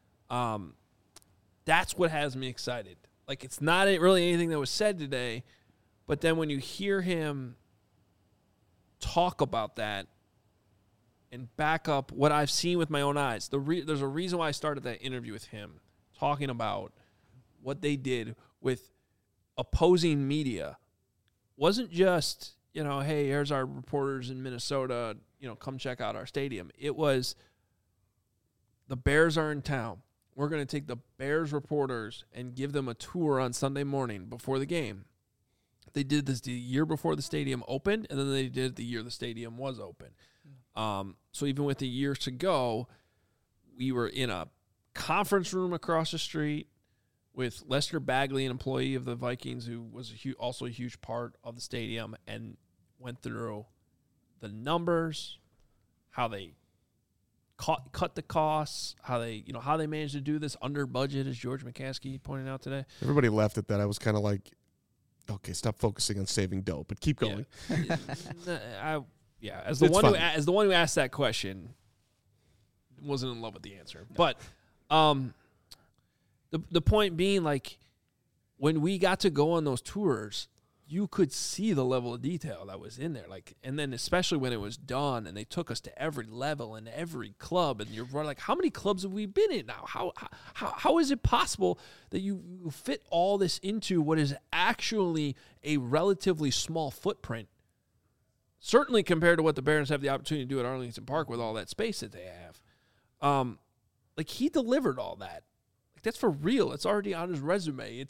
That's what has me excited. It's not really anything that was said today, but then when you hear him talk about that, and back up what I've seen with my own eyes. There's a reason why I started that interview with him, talking about what they did with opposing media. Wasn't just, hey, here's our reporters in Minnesota, come check out our stadium. It was, the Bears are in town. We're going to take the Bears reporters and give them a tour on Sunday morning before the game. They did this the year before the stadium opened, and then they did it the year the stadium was open. So even with the years to go, we were in a conference room across the street with Lester Bagley, an employee of the Vikings, who was also a huge part of the stadium, and went through the numbers, how they cut the costs, how they managed to do this under budget, as George McCaskey pointed out today. Everybody laughed at that. I was kind of like, okay, stop focusing on saving dough, but keep going. As the one who asked that question, wasn't in love with the answer. But the point being, like, when we got to go on those tours, you could see the level of detail that was in there. Like, and then especially when it was done and they took us to every level and every club, and you're like, how many clubs have we been in now? How is it possible that you fit all this into what is actually a relatively small footprint? Certainly compared to what the Bears have the opportunity to do at Arlington Park with all that space that they have. Like, he delivered all that. Like, that's for real. It's already on his resume.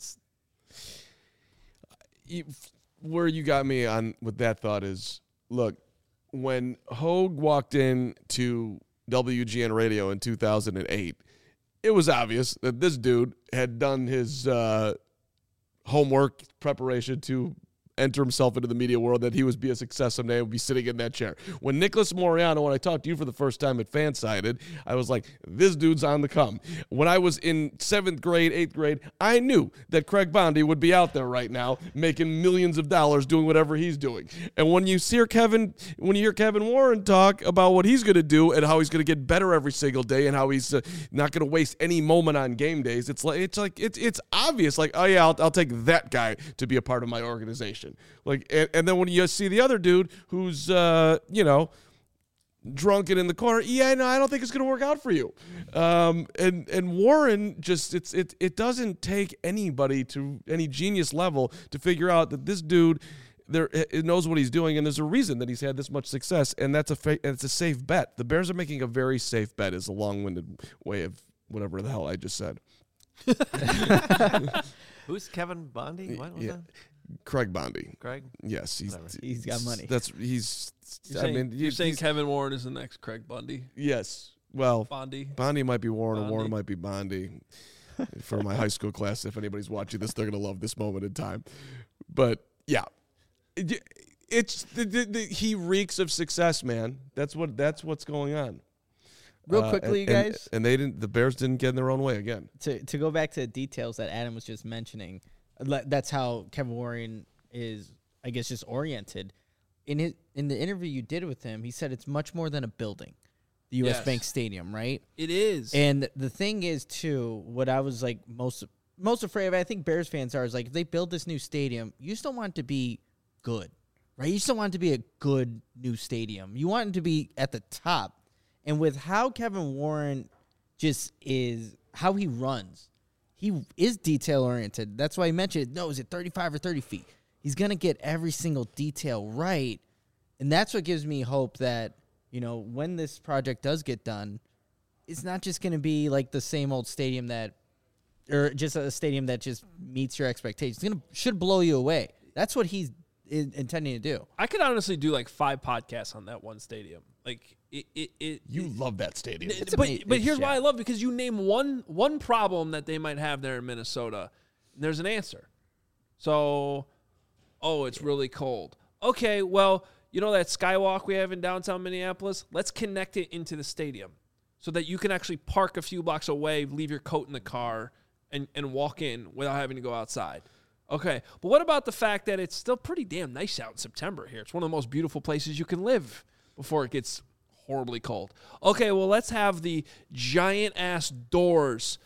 Where you got me on with that thought is, look, when Hogue walked in to WGN Radio in 2008, it was obvious that this dude had done his homework preparation to enter himself into the media world, that he would be a success someday, would be sitting in that chair. When Nicholas Moreano, when I talked to you for the first time at Fansided, I was like, this dude's on the come. When I was in 7th grade, 8th grade, I knew that Craig Bondi would be out there right now making millions of dollars doing whatever he's doing. And when you hear Kevin Warren talk about what he's going to do and how he's going to get better every single day and how he's not going to waste any moment on game days, it's obvious. Like, oh yeah, I'll take that guy to be a part of my organization. Like, and then when you see the other dude who's drunk and in the corner, I don't think it's going to work out for you. And Warren just it doesn't take anybody to any genius level to figure out that this dude it knows what he's doing, and there's a reason that he's had this much success, and it's a safe bet. The Bears are making a very safe bet, is a long-winded way of whatever the hell I just said. Who's Kevin Bondi? What was that? Craig Bondi. Craig? Yes, he's got money. You're saying Kevin Warren is the next Craig Bundy? Yes. Well, Bondi might be Warren, or Warren might be Bondi. For my high school class, if anybody's watching this, they're gonna love this moment in time. But yeah, it's he reeks of success, man. That's what's going on. Real quickly, you guys. And the Bears didn't get in their own way again. To go back to the details that Adam was just mentioning, that's how Kevin Warren is, I guess, just oriented. In the interview you did with him, he said it's much more than a building, the U.S. Bank Stadium, right? It is. And the thing is, too, what I was like most afraid of, I think Bears fans are, is like, if they build this new stadium, you just don't want it to be good, right? You just don't want it to be a good new stadium. You want it to be at the top. And with how Kevin Warren just is, how he runs, he is detail-oriented. That's why he mentioned, no, is it 35 or 30 feet? He's going to get every single detail right. And that's what gives me hope that, when this project does get done, it's not just going to be like the same old stadium or just a stadium that just meets your expectations. Should blow you away. That's what he's intending to do. I could honestly do like 5 podcasts on that one stadium. Like, you love that stadium. But here's why I love it, because you name one problem that they might have there in Minnesota, and there's an answer. So, it's really cold. Okay, well, that skywalk we have in downtown Minneapolis? Let's connect it into the stadium so that you can actually park a few blocks away, leave your coat in the car, and walk in without having to go outside. Okay, but what about the fact that it's still pretty damn nice out in September here? It's one of the most beautiful places you can live before it gets horribly cold. Okay, well, let's have the giant-ass doors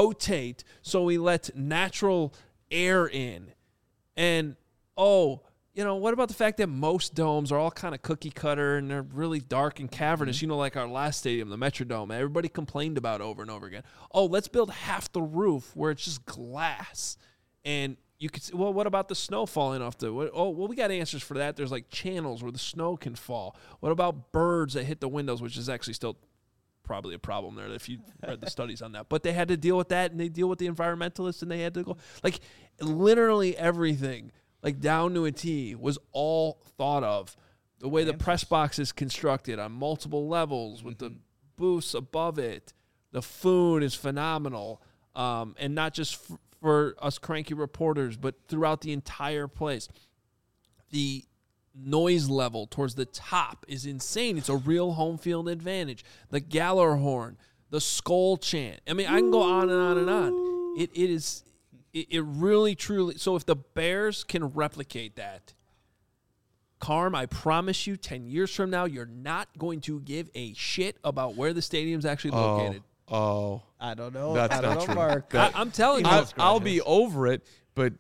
rotate so we let natural air in. And, what about the fact that most domes are all kind of cookie cutter and they're really dark and cavernous? Like our last stadium, the Metrodome, everybody complained about over and over again. Oh, let's build half the roof where it's just glass. And you could say, well, what about the snow falling off we got answers for that. There's like channels where the snow can fall. What about birds that hit the windows, which is actually still probably a problem there if you read the studies on that. But they had to deal with that, and they deal with the environmentalists, and they had to go. Like, literally everything, like down to a T, was all thought of. The way the press box is constructed on multiple levels with the booths above it. The food is phenomenal, and not just for us cranky reporters, but throughout the entire place. The noise level towards the top is insane. It's a real home field advantage. The Galler horn, the skull chant. I mean, I can go on and on and on. It really, truly. So if the Bears can replicate that, Carm, I promise you, 10 years from now, you're not going to give a shit about where the stadium's actually located. I don't know. That's not true. Mark. I'm telling you. I'll be over it, but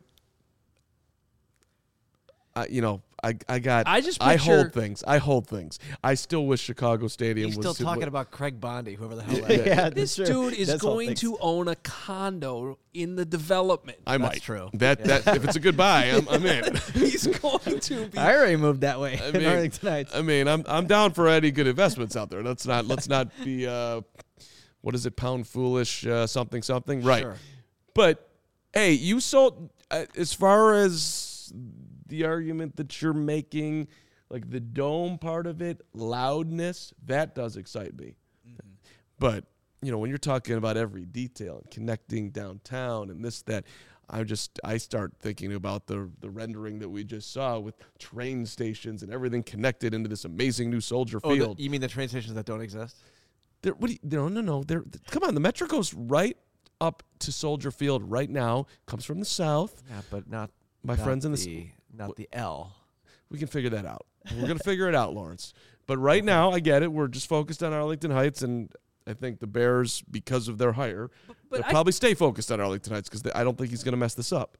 I hold things. I still wish Chicago Stadium He's was still talking about Craig Bondi, whoever the hell that is. Yeah, This dude is going to own a condo in the development. I might. That's true. That if it's a good buy, I'm in. He's going to be. I already moved that way in Arlington Heights. I mean, I'm down for any good investments out there. Let's not be what is it, pound foolish something, right? Sure. But hey, you sold as far as the argument that you're making, like the dome part of it, loudness, that does excite me. Mm-hmm. But when you're talking about every detail and connecting downtown and this, that, I start thinking about the rendering that we just saw with train stations and everything connected into this amazing new Soldier Field. You mean the train stations that don't exist? No. Come on, the Metro goes right up to Soldier Field right now. Comes from the south. Yeah, but not friends in not the L. We can figure that out. We're gonna figure it out, Lawrence. But right now, I get it. We're just focused on Arlington Heights, and I think the Bears, because of their hire, they'll probably stay focused on Arlington Heights because I don't think he's gonna mess this up.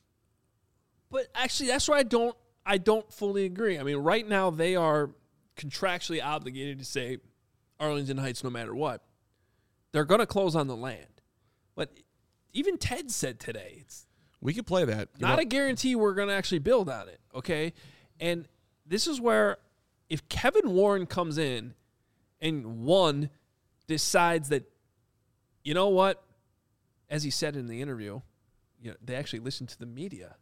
But actually, that's where I don't fully agree. I mean, right now they are contractually obligated to say Arlington Heights no matter what. They're going to close on the land. But even Ted said today, we could play that. Not a guarantee we're going to actually build on it, okay? And this is where if Kevin Warren comes in and decides that, you know what, as he said in the interview, they actually listened to the media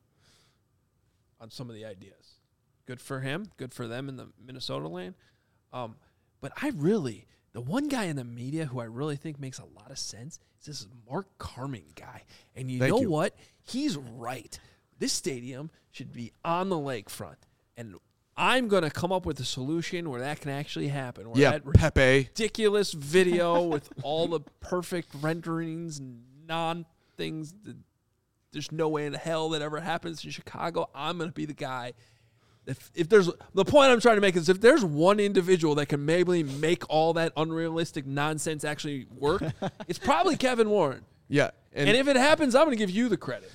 on some of the ideas. Good for him. Good for them in the Minnesota lane. But the one guy in the media who I really think makes a lot of sense is this Mark Carman guy. And you know what? He's right. This stadium should be on the lakefront. And I'm going to come up with a solution where that can actually happen. Where that Pepe. Ridiculous video with all the perfect renderings and non-things. There's no way in hell that ever happens in Chicago. I'm going to be the guy. If there's the point I'm trying to make is if there's one individual that can maybe make all that unrealistic nonsense actually work, it's probably Kevin Warren. Yeah. And if it happens, I'm going to give you the credit.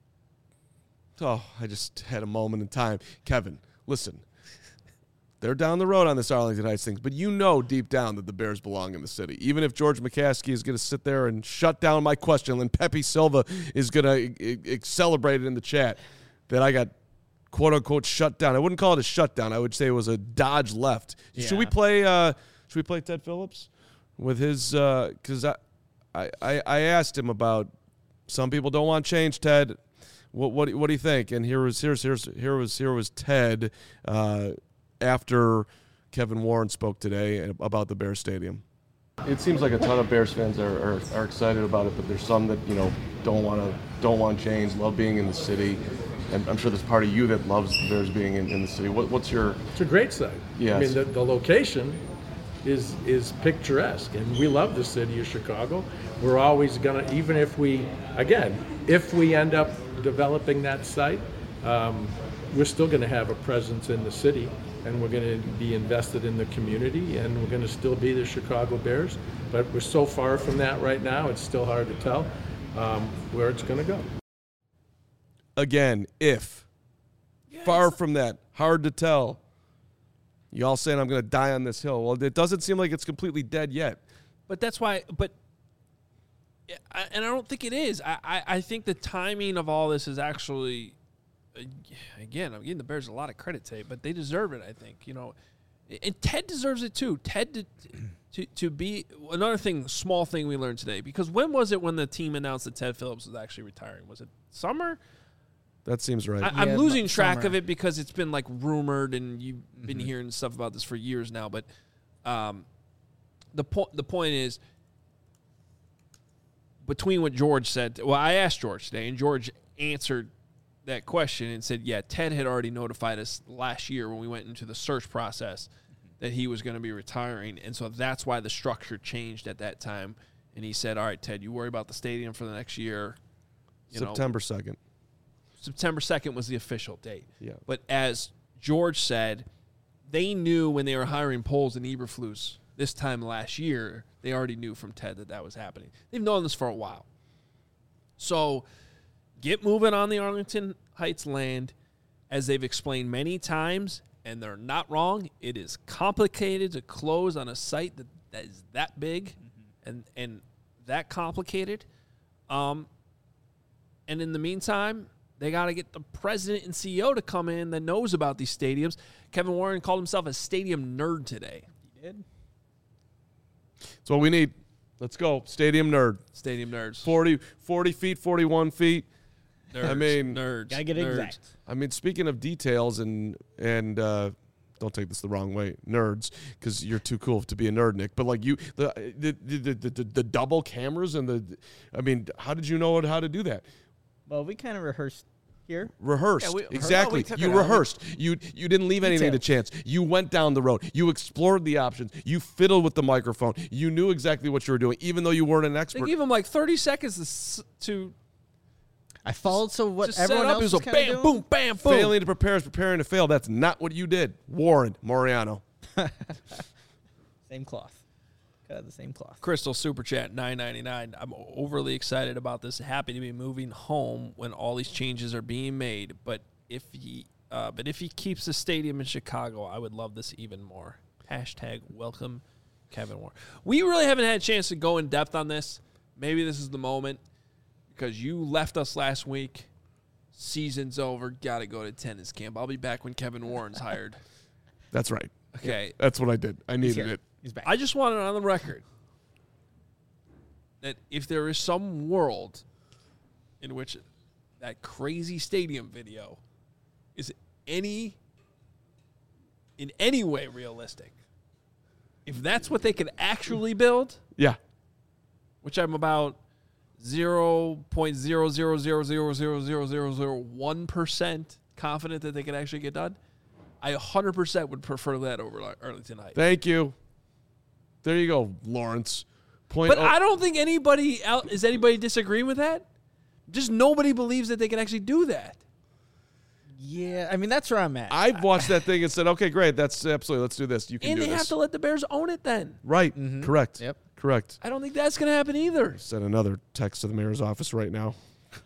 Oh, I just had a moment in time. Kevin, listen. They're down the road on this Arlington Heights thing, but deep down that the Bears belong in the city. Even if George McCaskey is going to sit there and shut down my question, and Pepe Silva is going to celebrate it in the chat that I got quote-unquote shut down. I wouldn't call it a shutdown. I would say it was a dodge left. Yeah. Should we play Ted Phillips with his because I asked him about some people don't want change, Ted. What do you think? And here was Ted after Kevin Warren spoke today about the Bears Stadium. It seems like a ton of Bears fans are excited about it, but there's some that don't want change, love being in the city. And I'm sure there's part of you that loves the Bears being in the city. What's your? It's a great site. Yeah. I mean, the location is picturesque, and we love the city of Chicago. We're always gonna, even if we end up developing that site, we're still gonna have a presence in the city, and we're gonna be invested in the community, and we're gonna still be the Chicago Bears. But we're so far from that right now; it's still hard to tell where it's gonna go. Again, if Far from that. Hard to tell. You all saying I'm going to die on this hill. Well, it doesn't seem like it's completely dead yet. But that's why. And I don't think it is. I think the timing of all this is actually, again, I'm giving the Bears a lot of credit today, but they deserve it. I think, and Ted deserves it too. Ted to be another thing, small thing we learned today. Because when was it when the team announced that Ted Phillips was actually retiring? Was it summer? That seems right. I'm losing track of it because it's been like rumored, and you've been hearing stuff about this for years now. But the point is, between what George said, well, I asked George today, and George answered that question and said, yeah, Ted had already notified us last year when we went into the search process that he was going to be retiring, and so that's why the structure changed at that time. And he said, all right, Ted, you worry about the stadium for the next year. September 2nd. September 2nd was the official date. Yeah. But as George said, they knew when they were hiring Poles and Eberflus this time last year, they already knew from Ted that was happening. They've known this for a while. So get moving on the Arlington Heights land. As they've explained many times, and they're not wrong, it is complicated to close on a site that is that big and that complicated. And in the meantime, they got to get the president and CEO to come in that knows about these stadiums. Kevin Warren called himself a stadium nerd today. He did. That's what we need. Let's go. Stadium nerd. Stadium nerds. 40 feet, 41 feet. Nerds. I mean, nerds. Gotta get nerds. exact. I mean, speaking of details and don't take this the wrong way, nerds, because you're too cool to be a nerd, Nick. But like the double cameras and how did you know how to do that? Well, we kind of rehearsed here. Rehearsed. Yeah, Exactly. we took You it out. rehearsed. You didn't leave anything to chance. You went down the road. You explored the options. You fiddled with the microphone. You knew exactly what you were doing, even though you weren't an They expert. gave him like 30 seconds to I followed what just set everyone up. else It was was a kind of bam, doing. boom, bam, boom. Failing to prepare is preparing to fail. That's not what you did. Warren Moriano. Same cloth. Cut out the same cloth. Crystal Super Chat $9.99. I'm overly excited about this. Happy to be moving home when all these changes are being made. But if he keeps the stadium in Chicago, I would love this even more. Hashtag welcome Kevin Warren. We really haven't had a chance to go in depth on this. Maybe this is the moment because you left us last week. Season's over. Got to go to tennis camp. I'll be back when Kevin Warren's hired. That's right. Okay. That's what I did. I needed it. He's back. I just want it on the record that if there is some world in which that crazy stadium video is in any way realistic, if that's what they could actually build, Yeah. which I'm about 0.000000001% confident that they could actually get done, I 100% would prefer that over Arlington Heights. Thank you. There you go, Lawrence. But I don't think anybody disagreeing with that. Just nobody believes that they can actually do that. Yeah, I mean, that's where I'm at. I've watched that thing and said, okay, great. That's absolutely. Let's do this. You can And do they this. have to let the Bears own it then. Right. Correct. Yep. Correct. I don't think that's going to happen either. Send another text to the mayor's office right now.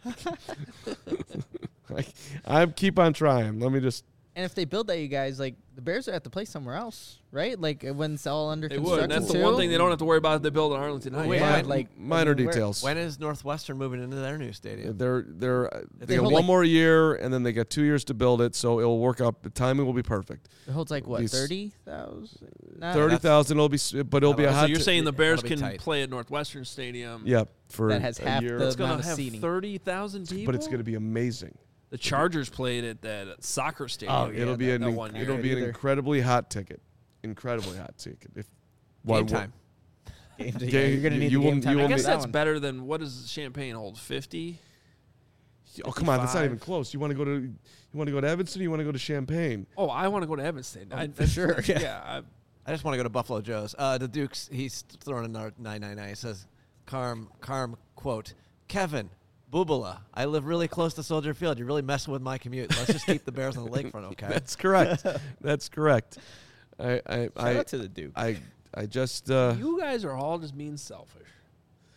I keep on trying. Let me just. And if they build that, you guys, like, the Bears are at the place somewhere else, right? Like, when it's all under They construction, would. And that's the too. one thing they don't have to worry about if they build in Arlington Heights. Wait, Yeah, Min- like Minor where- details. When is Northwestern moving into their new stadium? They They got hold, one like- more year, and then they got 2 years to build it, so it'll work out. The timing will be perfect. It holds, like, what, These- 30,000? 30,000. It'll be, but it'll be a So hot. So you're saying the Bears That'll be can tight. play at Northwestern Stadium. yeah, for That has a half year. the- It's going amount to of have seating. 30,000 people. But it's going to be amazing. The Chargers played at that soccer stadium. Oh, yeah, It'll be that one year. it'll be an either. incredibly hot ticket. Incredibly hot ticket. If Game time. Game day. Game- You're going to need you the will- game time. you I will guess need- that's better than what does Champaign hold? 50? Oh come on, that's not 55. even close. You want to go to Evanston? Or you want to go to Champaign? Oh, I want to go to Evanston. for sure, yeah. Yeah. I just want to go to Buffalo Joe's. The Dukes, he's throwing another 999. He says, Carm, quote, Kevin, Boobala, I live really close to Soldier Field. You're really messing with my commute. Let's just keep the Bears on the lakefront, okay? That's correct. That's correct. Shout out to the Duke. I just You guys are all just being selfish.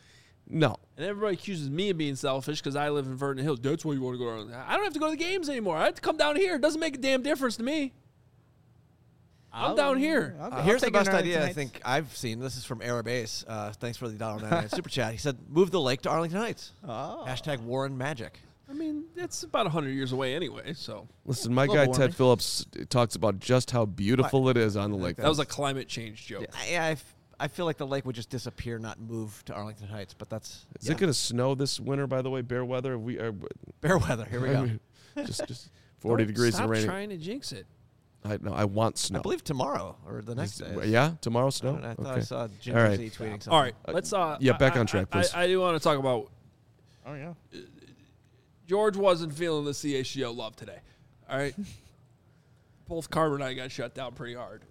No. And everybody accuses me of being selfish because I live in Vernon Hills. That's why you want to go to Arlington. I don't have to go to the games anymore. I have to come down here. It doesn't make a damn difference to me. I'm down here. Here's the best idea I think I've seen. This is from Arab Ace. Thanks for the $1.99 super chat. He said, move the lake to Arlington Heights. Oh. Hashtag Warren Magic. I mean, it's about 100 years away anyway, so. Listen, my guy Ted Phillips talks about just how beautiful it is on the lake. That was a climate change joke. Yeah, I feel like the lake would just disappear, not move to Arlington Heights, but that's... Is it going to snow this winter, by the way, bear weather? Bear weather, here we go. Just 40 degrees and raining. Stop trying to jinx it. I want snow. I believe tomorrow or the next day. Yeah, tomorrow snow? I thought I Okay. saw Jim All right. Z tweeting something. All right, let's... back on track, please. I do want to talk about... Oh, yeah. George wasn't feeling the CHGO love today. All right? Both Carter and I got shut down pretty hard.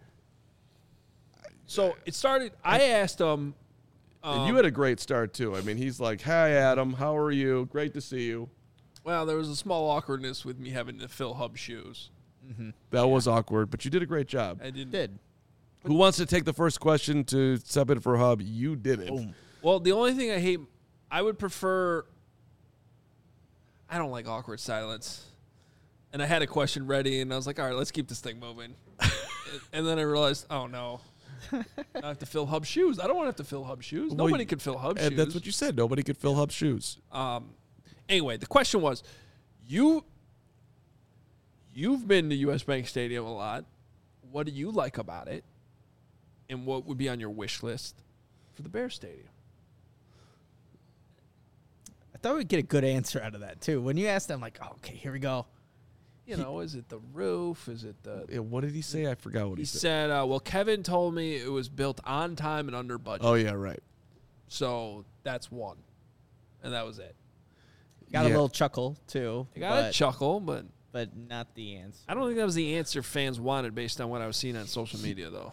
So it started... I asked him... And you had a great start, too. I mean, he's like, hi, Adam. How are you? Great to see you. Well, there was a small awkwardness with me having to fill Hub shoes. That was awkward, but you did a great job. I didn't... Did. Who wants to take the first question to step in for Hub? You did it. Boom. Well, the only thing I hate... I would prefer... I don't like awkward silence. And I had a question ready, and I was like, all right, let's keep this thing moving. And then I realized, oh, no. I have to fill Hub shoes. I don't want to have to fill Hub shoes. Well, Nobody could fill Hub shoes. And that's what you said. Nobody could fill Hub shoes. Anyway, the question was, you've been to US Bank Stadium a lot. What do you like about it? And what would be on your wish list for the Bears Stadium? I thought we'd get a good answer out of that, too. When you asked them, like, oh, okay, here we go. You know, is it the roof? Is it the... Yeah, what did he say? I forgot what he He said. said, well, Kevin told me it was built on time and under budget. Oh, yeah, right. So that's one. And that was it. Got a Yeah. little chuckle, too. I got a chuckle, but not the answer. I don't think that was the answer fans wanted based on what I was seeing on social media, though.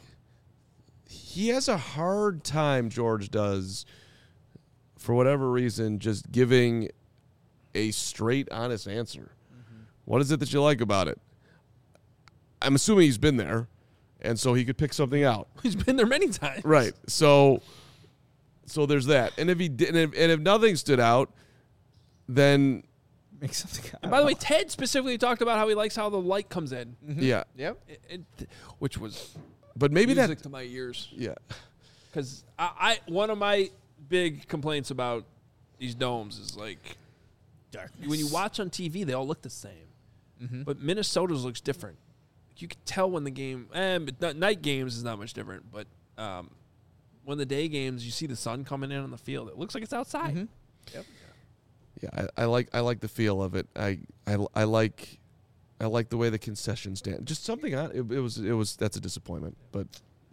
He has a hard time, George does, for whatever reason, just giving a straight, honest answer. What is it that you like about it? I'm assuming he's been there, and so he could pick something out. He's been there many times. Right. So there's that. And if he did, and if nothing stood out, then Make something out And by the way, Ted specifically talked about how he likes how the light comes in. yeah. Yep. Which was But maybe music that. to my ears. Yeah. Because I one of my big complaints about these domes is like Darkness. when you watch on TV, they all look the same. But Minnesota's looks different. You can tell when the game, night games is not much different, but when the day games, you see the sun coming in on the field. It looks like it's outside. Yep. Yeah, I like the feel of it. I like the way the concessions stand. Just something on it was that's a disappointment. But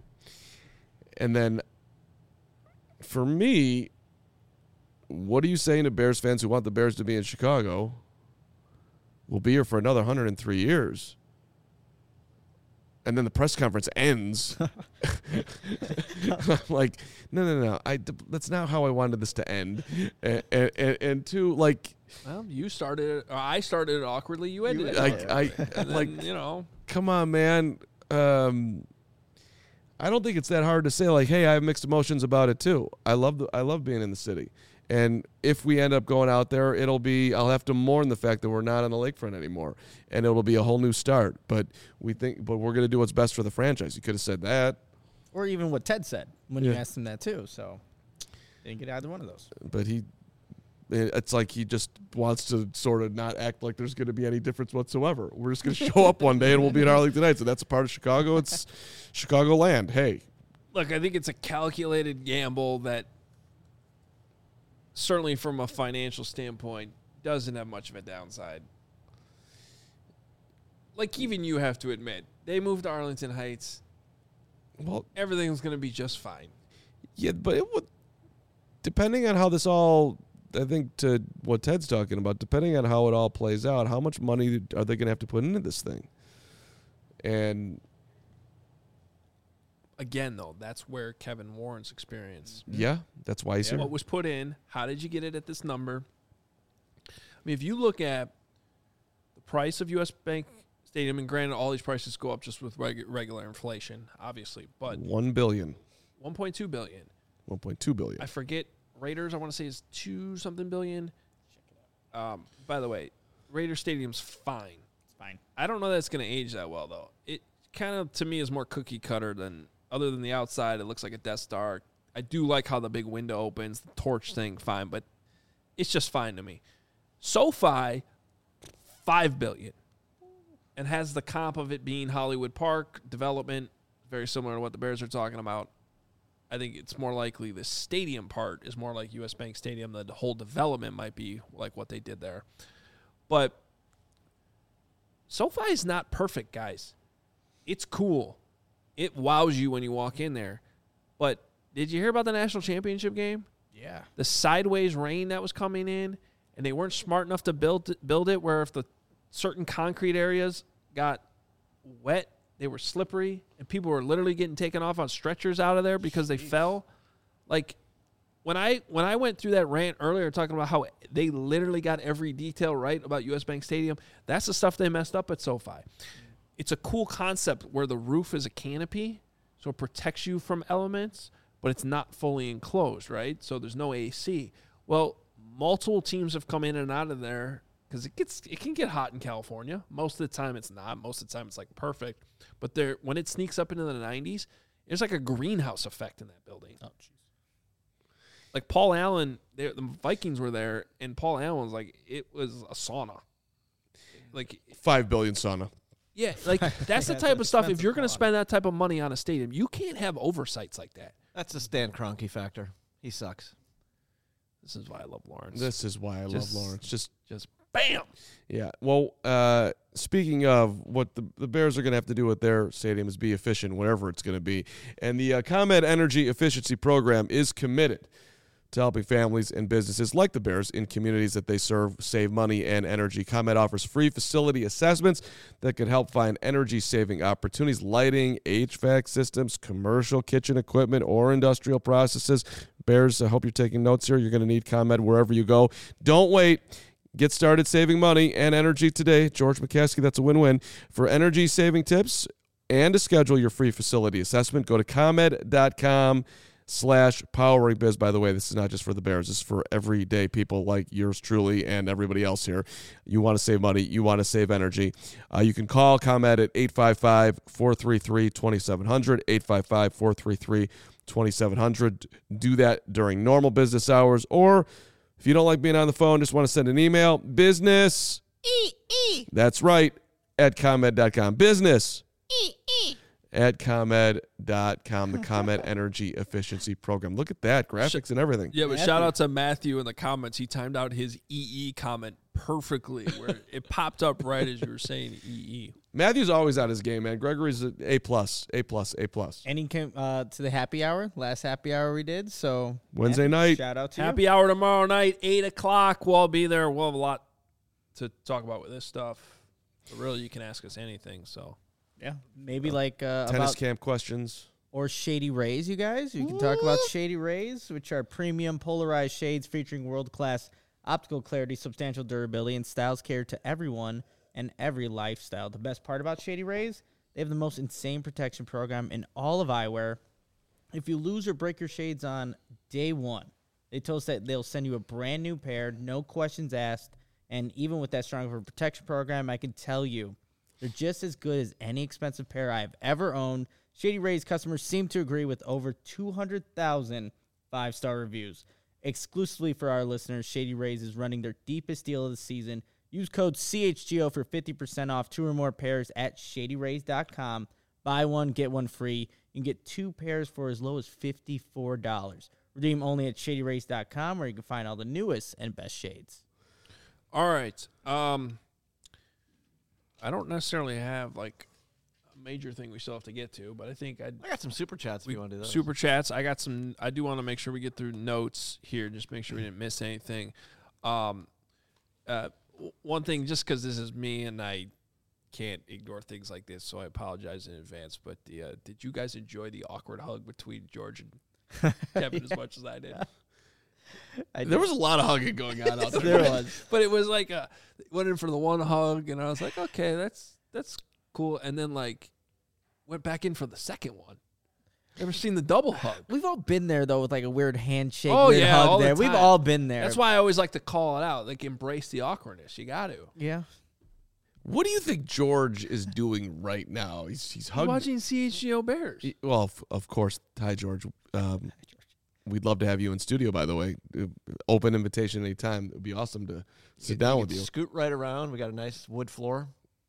and then for me, what are you saying to Bears fans who want the Bears to be in Chicago? We'll be here for another 103 years. And then the press conference ends. I'm like, no. That's not how I wanted this to end. And two, like, Well, you started it, or I started it awkwardly. You ended it. I like, You know, come on, man. I don't think it's that hard to say. Like, hey, I have mixed emotions about it too. I love being in the city. And if we end up going out there, I'll have to mourn the fact that we're not on the lakefront anymore, and it'll be a whole new start. But we're going to do what's best for the franchise. You could have said that, Or even what Ted said when you asked him that, too. So, didn't get either one of those. but it's like he just wants to sort of not act like there's going to be any difference whatsoever. We're just going to show up one day and we'll be in Arlington Heights, and that's a part of Chicago. It's Chicagoland. Hey, look, I think it's a calculated gamble that certainly from a financial standpoint doesn't have much of a downside. Like even you have to admit, they moved to Arlington Heights. well, Everything's going to be just fine. yeah, but it would, depending on how this all, I think to what Ted's talking about, depending on how it all plays out, how much money are they going to have to put into this thing? And Again, though, that's where Kevin Warren's experience. yeah, that's why he's here. What was put in? How did you get it at this number? I mean, if you look at the price of US Bank Stadium, and granted, all these prices go up just with regular inflation, obviously, but $1 billion, $1.2 billion. $1.2 billion. I forget Raiders, I want to say, is 2-something billion. By the way, Raiders Stadium's fine. It's fine. I don't know that it's going to age that well, though. It kind of, to me, is more cookie cutter than, other than the outside, it looks like a Death Star. I do like how the big window opens, the torch thing, fine, but it's just fine to me. SoFi, $5 billion, and has the comp of it being Hollywood Park development, very similar to what the Bears are talking about. I think it's more likely the stadium part is more like US Bank Stadium. The whole development might be like what they did there. But SoFi is not perfect, guys. It's cool. It wows you when you walk in there. But did you hear about the national championship game? Yeah. The sideways rain that was coming in, and they weren't smart enough to build it where if the certain concrete areas got wet, they were slippery, and people were literally getting taken off on stretchers out of there because they fell. Like, when I went through that rant earlier talking about how they literally got every detail right about US Bank Stadium, that's the stuff they messed up at SoFi. It's a cool concept where the roof is a canopy, so it protects you from elements, but it's not fully enclosed, right? So there's no AC. Well, multiple teams have come in and out of there because it can get hot in California. Most of the time it's not. Most of the time it's like perfect. But when it sneaks up into the 90s, there's like a greenhouse effect in that building. Oh, jeez. Like Paul Allen, the Vikings were there, and Paul Allen was like, it was a sauna. Like $5 billion sauna. Yeah, like that's the type of stuff. If you're going to spend that type of money on a stadium, you can't have oversights like that. That's the Stan Kroenke factor. He sucks. This is why I love Lawrence. This is why I love Lawrence. Just bam. Yeah. Well, speaking of what the Bears are going to have to do with their stadium is be efficient, whatever it's going to be. And the ComEd Energy Efficiency Program is committed to helping families and businesses like the Bears in communities that they serve save money and energy. ComEd offers free facility assessments that could help find energy-saving opportunities, lighting, HVAC systems, commercial kitchen equipment, or industrial processes. Bears, I hope you're taking notes here. You're going to need ComEd wherever you go. Don't wait. Get started saving money and energy today. George McCaskey, that's a win-win. For energy-saving tips and to schedule your free facility assessment, go to ComEd.com/poweringbiz. By the way, this is not just for the Bears. This is for everyday people like yours truly and everybody else here. You want to save money. You want to save energy. You can call ComEd at 855-433-2700, 855-433-2700. Do that during normal business hours, or if you don't like being on the phone, just want to send an email, business. That's right, at ComEd.com. Business. At ComEd.com, the ComEd Energy Efficiency Program. Look at that, graphics and everything. Yeah, but shout out to Matthew in the comments. He timed out his EE comment perfectly, where it popped up right as you were saying EE. Matthew's always on his game, man. Gregory's A+, A+, A+. And he came to the happy hour, last happy hour we did. So Wednesday night. Shout out to you. Happy hour tomorrow night, 8 o'clock. We'll be there. We'll have a lot to talk about with this stuff. But really, you can ask us anything, so. Yeah, maybe like tennis about camp questions. Or Shady Rays, you guys. You can talk about Shady Rays, which are premium polarized shades featuring world-class optical clarity, substantial durability, and styles cater to everyone and every lifestyle. The best part about Shady Rays, they have the most insane protection program in all of eyewear. If you lose or break your shades on day one, they told us that they'll send you a brand new pair, no questions asked, and even with that strong of a protection program, I can tell you, they're just as good as any expensive pair I've ever owned. Shady Rays customers seem to agree with over 200,000 five-star reviews. Exclusively for our listeners, Shady Rays is running their deepest deal of the season. Use code CHGO for 50% off 2 or more pairs at ShadyRays.com. Buy one, get one free. You can get 2 pairs for as low as $54. Redeem only at ShadyRays.com, where you can find all the newest and best shades. All right. I don't necessarily have like a major thing we still have to get to, but I think I got some super chats if you want to do those. Super chats. I got some. I do want to make sure we get through notes here, just make sure we didn't miss anything. One thing, just because this is me and I can't ignore things like this, so I apologize in advance. But did you guys enjoy the awkward hug between George and Kevin as much as I did? There was a lot of hugging going on out there. There was. But it was like went in for the one hug, and I was like, okay, that's cool. And then like went back in for the second one. Ever seen the double hug? We've all been there though with like a weird handshake, Oh, weird yeah, hug all the there. We've time. all been there. That's why I always like to call it out. Like, embrace the awkwardness. You got to. Yeah. What do you think George is doing right now? He's hugging. Watching CHGO Bears. Well, of course. Hi, George. We'd love to have you in studio, by the way. Open invitation anytime. It would be awesome to sit down with you. Scoot right around. We got a nice wood floor.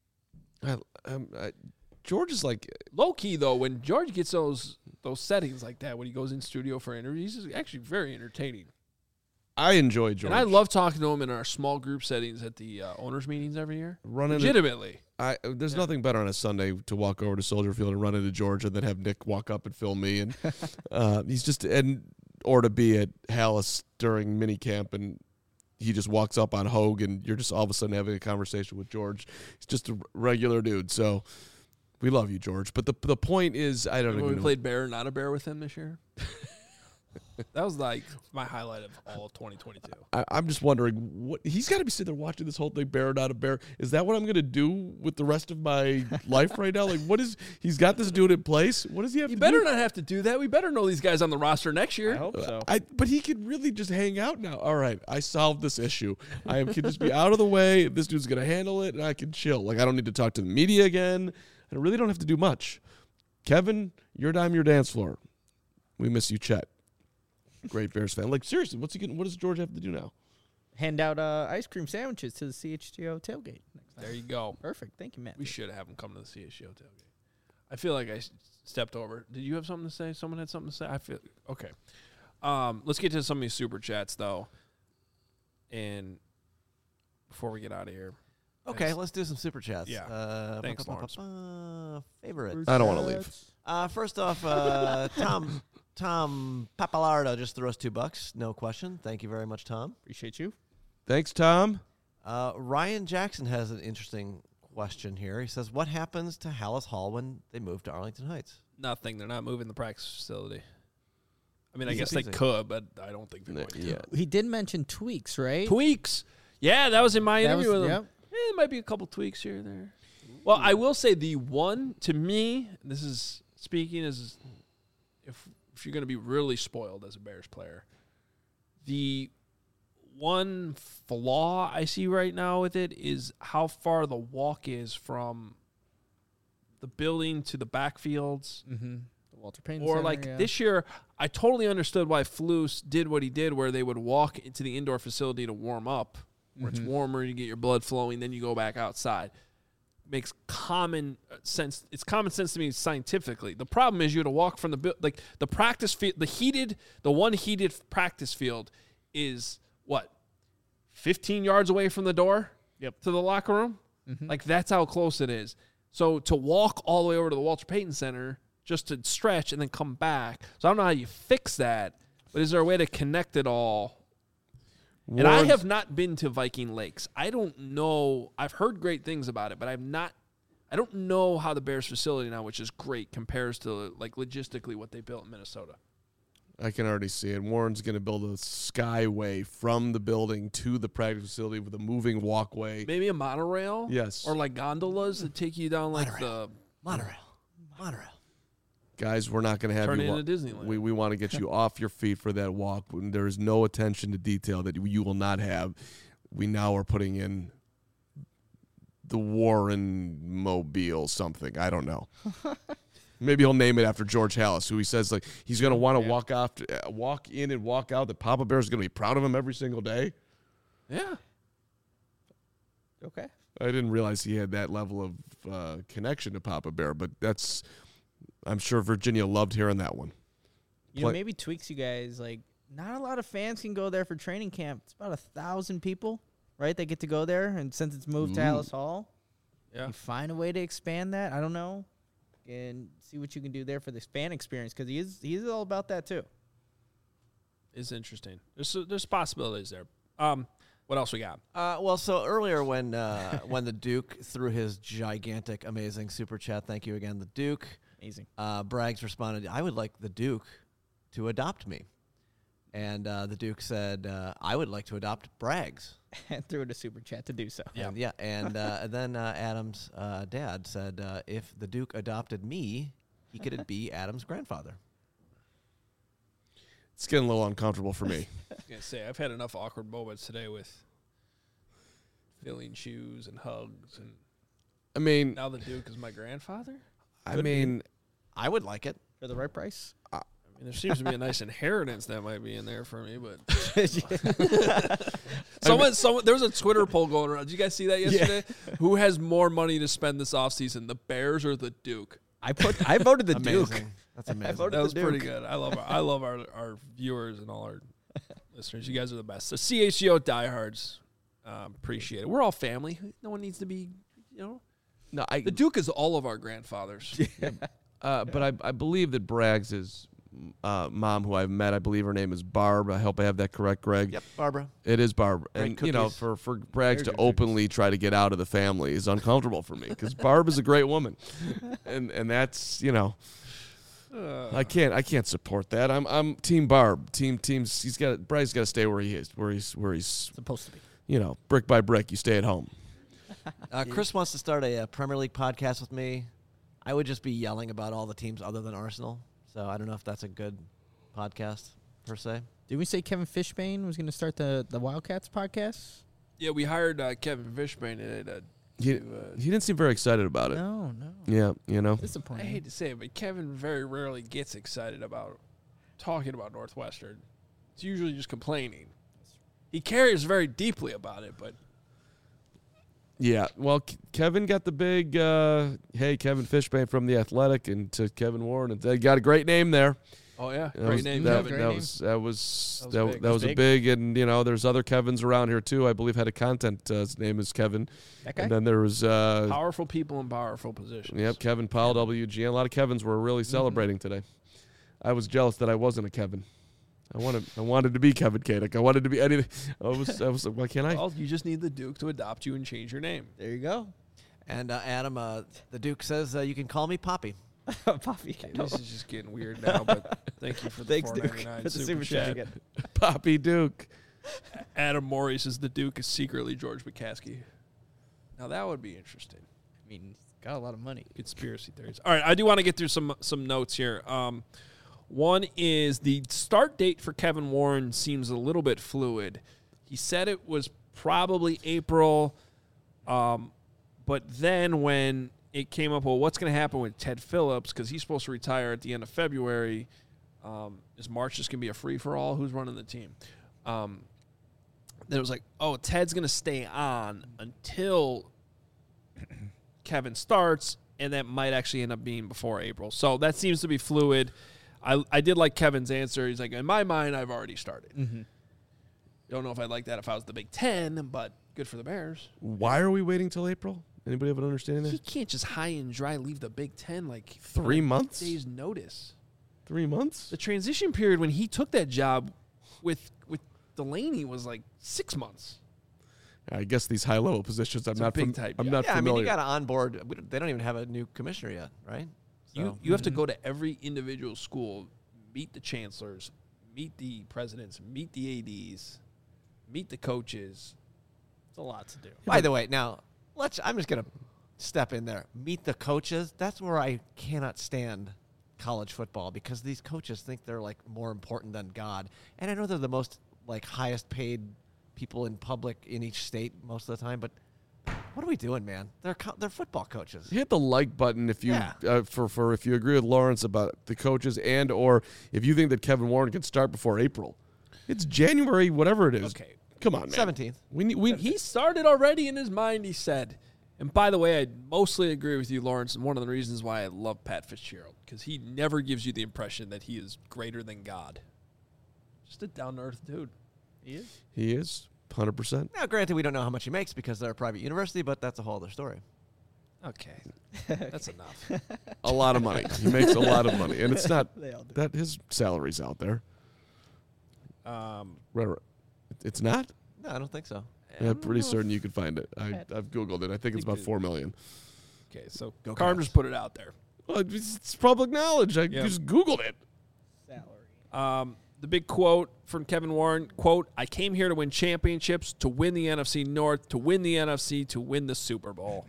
George is like Low key though, when George gets those settings like that, when he goes in studio for interviews, he's actually very entertaining. I enjoy George. And I love talking to him in our small group settings at the owners meetings every year. Legitimately. There's nothing better on a Sunday to walk over to Soldier Field and run into George and then have Nick walk up and film me, and or to be at Hallis during minicamp and he just walks up on Hogue and you're just all of a sudden having a conversation with George. He's just a regular dude. So we love you, George. But the point is, I don't know. When we played Bear, not a Bear with him this year. That was like my highlight of all of 2022. I'm just wondering, what he's got to be sitting there watching this whole thing, Bear, not a Bear. Is that what I'm going to do with the rest of my life right now? Like, he's got this dude in place. What does he have to do? You better not have to do that. We better know these guys on the roster next year. I hope so. But he could really just hang out now. All right, I solved this issue. I can just be out of the way. This dude's going to handle it, and I can chill. Like, I don't need to talk to the media again. I really don't have to do much. Kevin, your dime, your dance floor. We miss you, Chet. Great Bears fan. Like, seriously, what does George have to do now? Hand out ice cream sandwiches to the CHGO tailgate next time. There you go. Perfect. Thank you, Matt. We should have him come to the CHGO tailgate. I feel like I stepped over. Did you have something to say? Someone had something to say? I feel okay. Let's get to some of these super chats though, and before we get out of here. Okay, let's do some super chats. Yeah. Thanks, Lawrence. Favorites. I don't want to leave. First off, Tom Papalardo just threw us $2. No question. Thank you very much, Tom. Appreciate you. Thanks, Tom. Ryan Jackson has an interesting question here. He says, what happens to Hallis Hall when they move to Arlington Heights? Nothing. They're not moving the practice facility. I mean, I Easy guess they peasy. could, but I don't think they're going to. Yeah. He did mention tweaks, right? Tweaks. Yeah, that was in my That interview was- with him. yep. There might be a couple tweaks here or there. Well, I will say the one, to me, this is speaking as if you're going to be really spoiled as a Bears player, the one flaw I see right now with it is how far the walk is from the building to the backfields. Mm-hmm. The Walter Payton Or Center, like yeah. this year, I totally understood why Flus did what he did, where they would walk into the indoor facility to warm up, where it's warmer, you get your blood flowing, then you go back outside. Makes common sense. It's common sense to me scientifically. The problem is you had to walk from the practice field, the one heated practice field is what, 15 yards away from the door. Yep. To the locker room. Like that's how close it is. So to walk all the way over to the Walter Payton Center just to stretch and then come back. So I don't know how you fix that, but is there a way to connect it all? And I have not been to Viking Lakes. I don't know. I've heard great things about it, but I don't know how the Bears facility now, which is great, compares to like logistically what they built in Minnesota. I can already see it. Warren's going to build a skyway from the building to the practice facility with a moving walkway. Maybe a monorail? Yes. Or like gondolas that take you down like Monorail. Guys, we're not going to have Turn you it into Disneyland. We want to get you off your feet for that walk. There is no attention to detail that you will not have. We now are putting in the Warren Mobile something. I don't know. Maybe he'll name it after George Hallis, who he says like he's going to want to walk in and walk out. That Papa Bear is going to be proud of him every single day. Yeah. Okay. I didn't realize he had that level of connection to Papa Bear, but I'm sure Virginia loved hearing that one. You know, maybe tweaks you guys. Like, not a lot of fans can go there for training camp. It's about 1,000 people, right? They get to go there, and since it's moved to Hallis Hall, Yeah. you find a way to expand that. I don't know, and see what you can do there for the fan experience because he's all about that too. It's interesting. There's possibilities there. What else we got? Well, so earlier when the Duke threw his gigantic, amazing super chat, thank you again, the Duke. Amazing. Braggs responded, I would like the Duke to adopt me. And the Duke said, I would like to adopt Braggs. And threw it a super chat to do so. Yeah. And then Adam's dad said, if the Duke adopted me, he could be Adam's grandfather. It's getting a little uncomfortable for me. I was gonna say I've had enough awkward moments today with filling shoes and hugs, and I mean, now the Duke is my grandfather. I mean, I would like it. For the right price? I mean, there seems to be a nice inheritance that might be in there for me, but someone there was a Twitter poll going around. Did you guys see that yesterday? Who has more money to spend this offseason, the Bears or the Duke? I voted the Duke. Amazing. That's amazing. That was pretty good. I love our viewers and all our listeners. You guys are the best. So CHGO diehards, appreciate it. We're all family. No one needs to be, no, the Duke is all of our grandfathers. but I believe that Braggs' mom, who I've met, I believe her name is Barb. I hope I have that correct, Greg. Yep, Barbara. It is Barb. Great And, you know, cookies. for Braggs to openly try to get out of the family is uncomfortable for me because Barb is a great woman. And that's, you know, I can't support that. I'm Team Barb. Braggs got to stay where he is, where he's Supposed to be. you know, brick by brick, you stay at home. Chris wants to start a Premier League podcast with me. I would just be yelling about all the teams other than Arsenal. So I don't know if that's a good podcast per se. Did we say Kevin Fishbane was going to start the Wildcats podcast? Yeah, we hired Kevin Fishbane today He didn't seem very excited about it. No. Yeah, you know. I Disappointing. hate to say it, but Kevin very rarely gets excited about talking about Northwestern. It's usually just complaining. He cares very deeply about it, but Yeah, well, Kevin got the big, hey, Kevin Fishbane from The Athletic, and to Kevin Warren, and they got a great name there. oh yeah, That great was- name, that, Kevin. that was big. that was a big, and you know, there's other Kevins around here too. I believe head of content, his name is Kevin. That guy? And then there was, Powerful people in powerful positions. yep, Kevin Powell, WGN. A lot of Kevins were really celebrating today. I was jealous that I wasn't a Kevin. I wanted to be Kevin Kadick. I wanted to be anything. I was like, why can't I? Well, you just need the Duke to adopt you and change your name. There you go. And Adam, the Duke says you can call me Poppy. Poppy. This is just getting weird now, but thank you for the Thanks, Duke. $4.99 For the super super chat chat. again. Poppy Duke. Adam Morey says the Duke is secretly George McCaskey. Now that would be interesting. I mean, he's got a lot of money. Conspiracy theories. All right, I do want to get through some notes here. One is the start date for Kevin Warren seems a little bit fluid. He said it was probably April, but then when it came up, well, what's going to happen with Ted Phillips because he's supposed to retire at the end of February? Is March just going to be a free-for-all? Who's running the team? Then it was like, oh, Ted's going to stay on until Kevin starts, and that might actually end up being before April. So that seems to be fluid. I did like Kevin's answer. He's like, in my mind, I've already started. Mm-hmm. Don't know if I'd like that if I was the Big Ten, but good for the Bears. Why are we waiting till April? Anybody have an understanding He there? can't just high and dry leave the Big Ten like 3 months? days notice. 3 months? The transition period when he took that job with Delaney was like 6 months. I guess these high level positions, I'm a not. big type I'm job. not Yeah, I mean, familiar. you got to onboard. They don't even have a new commissioner yet, right? So, You have to go to every individual school, meet the chancellors, meet the presidents, meet the ADs, meet the coaches. It's a lot to do. By the way, now I'm just gonna step in there. Meet the coaches. That's where I cannot stand college football because these coaches think they're like more important than God. And I know they're the most like highest paid people in public in each state most of the time, but what are we doing, man? They're football coaches. Hit the like button if you if you agree with Lawrence about the coaches and or if you think that Kevin Warren can start before April. It's January, whatever it is. Okay. Come on, man. 17th. He started already in his mind, he said. And by the way, I mostly agree with you, Lawrence, and one of the reasons why I love Pat Fitzgerald, because he never gives you the impression that he is greater than God. Just a down-to-earth dude. He is. He is 100%. Now, granted, we don't know how much he makes because they're a private university, but that's a whole other story. Okay. That's enough. A lot of money. He makes a lot of money, and it's not They all do. that his salary's out there. Right. It's not. No, I don't think so. Yeah, I'm pretty certain you could find it. I've Googled it. I think it's about $4 million. Okay, so Go Carm Cavs. just put it out there. Well, it's public knowledge. I just Googled it. Salary. The big quote from Kevin Warren, quote, I came here to win championships, to win the NFC North, to win the NFC, to win the Super Bowl.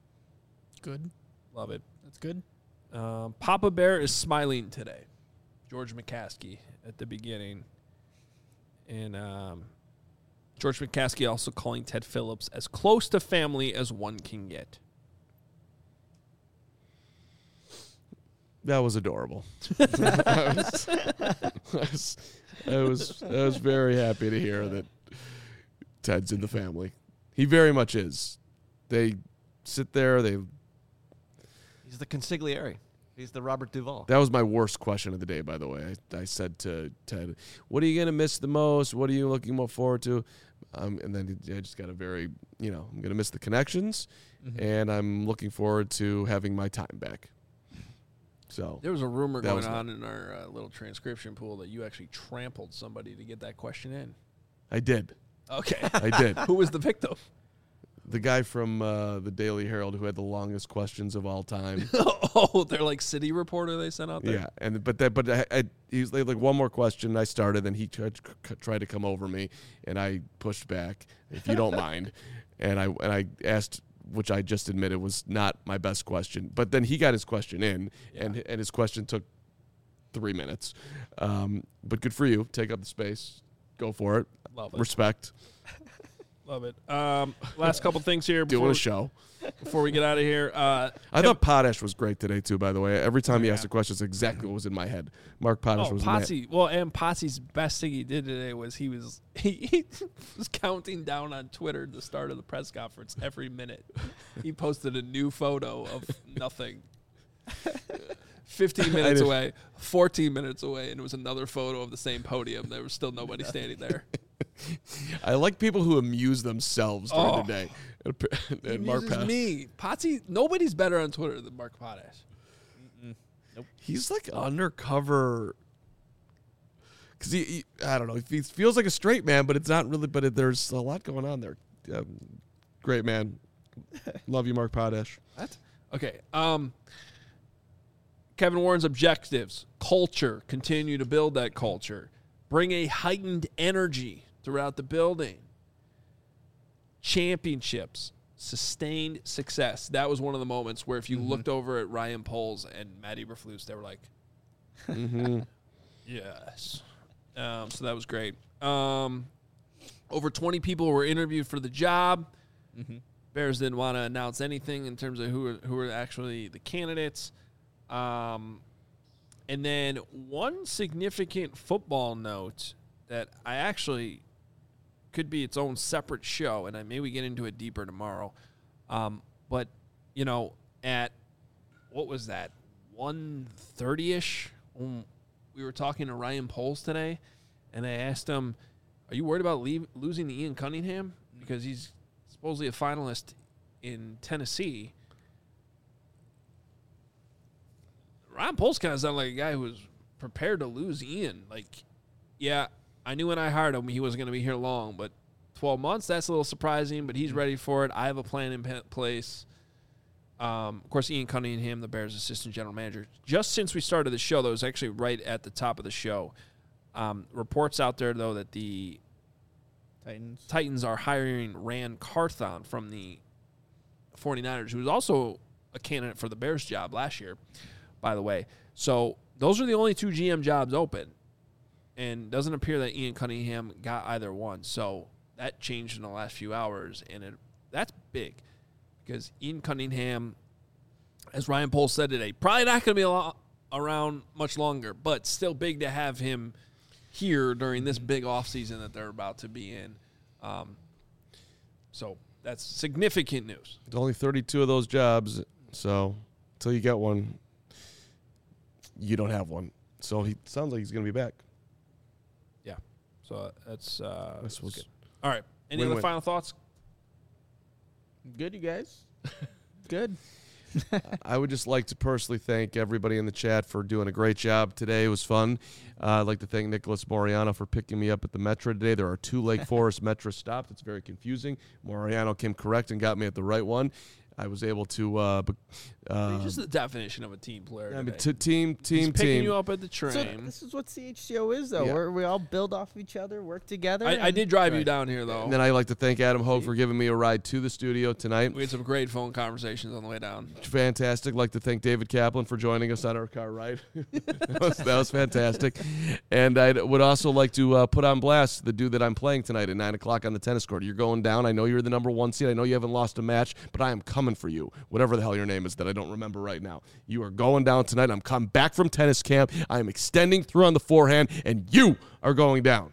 Good. Love it. That's good. Papa Bear is smiling today. George McCaskey at the beginning. And George McCaskey also calling Ted Phillips as close to family as one can get. That was adorable. I was very happy to hear that Ted's in the family. He very much is. They sit there. He's the consigliere. He's the Robert Duvall. That was my worst question of the day, by the way. I said to Ted, "What are you going to miss the most? What are you looking more forward to?" And then I just got a very, I'm going to miss the connections, and I'm looking forward to having my time back. So there was a rumor going on in our little transcription pool that you actually trampled somebody to get that question in. I did. Okay. I did. Who was the victim? The guy from the Daily Herald who had the longest questions of all time. Oh, they're like city reporter they sent out there? Yeah, but he was like one more question. I started, then he tried to come over me, and I pushed back, if you don't mind. And I asked, which I just admitted was not my best question. But then he got his question in, and his question took 3 minutes. But good for you. Take up the space. Go for it. Love it. Respect. Love it. Last couple things here. Doing a show. Before we get out of here. I thought Potash was great today, too, by the way. Every time he asked a question, it's exactly what was in my head. Mark Potash was in my head. Well, and Potsy's best thing he did today was he was counting down on Twitter the start of the press conference every minute. He posted a new photo of nothing. 15 minutes away, 14 minutes away, and it was another photo of the same podium. There was still nobody standing there. I like people who amuse themselves during the day. And Mark me. Potsy, nobody's better on Twitter than Mark Potash. Nope. He's like undercover. Because I don't know. He feels like a straight man, but it's not really. But there's a lot going on there. Great man. Love you, Mark Potash. What? Okay. Kevin Warren's objectives: culture, continue to build that culture, bring a heightened energy throughout the building, championships, sustained success. That was one of the moments where if you looked over at Ryan Poles and Matt Eberflus, they were like, yes. So that was great. Over 20 people were interviewed for the job. Bears didn't want to announce anything in terms of who were actually the candidates. And then one significant football note that I actually could be its own separate show, and maybe we get into it deeper tomorrow. But, at, what was that, 1:30-ish, we were talking to Ryan Poles today, and I asked him, are you worried about losing to Ian Cunningham? Because he's supposedly a finalist in Tennessee. Ryan Poles kind of sounded like a guy who was prepared to lose Ian. Like, yeah, I knew when I hired him he wasn't going to be here long, but 12 months, that's a little surprising, but he's ready for it. I have a plan in place. Of course, Ian Cunningham, the Bears' assistant general manager. Just since we started the show, that was actually right at the top of the show. Reports out there, though, that the Titans are hiring Rand Carthon from the 49ers, who was also a candidate for the Bears job last year, by the way. So those are the only two GM jobs open, and doesn't appear that Ian Cunningham got either one. So that changed in the last few hours, and that's big because Ian Cunningham, as Ryan Poles said today, probably not going to be around much longer, but still big to have him here during this big offseason that they're about to be in. So that's significant news. There's only 32 of those jobs, so until you get one, you don't have one. So he sounds like he's going to be back. Yeah. So that's good. All right. Any other final thoughts? Good, you guys. Good. I would just like to personally thank everybody in the chat for doing a great job today. It was fun. I'd like to thank Nicholas Moriano for picking me up at the Metro today. There are 2 Lake Forest Metro stops. It's very confusing. Moriano came correct and got me at the right one. I was able to. Just the definition of a team player. I mean, today. team. Picking you up at the So train. this is what CHGO is, though. Yeah. Where we all build off of each other, work together. I and- did drive you down here, though. And then I'd like to thank Adam Hogue for giving me a ride to the studio tonight. We had some great phone conversations on the way down. Fantastic. Like to thank David Kaplan for joining us on our car ride. that was fantastic. And I would also like to put on blast the dude that I'm playing tonight at 9 o'clock on the tennis court. You're going down. I know you're the number 1 seed. I know you haven't lost a match, but I am coming for you. Whatever the hell your name is that I don't remember right now. You are going down tonight. I'm coming back from tennis camp. I am extending through on the forehand, and you are going down.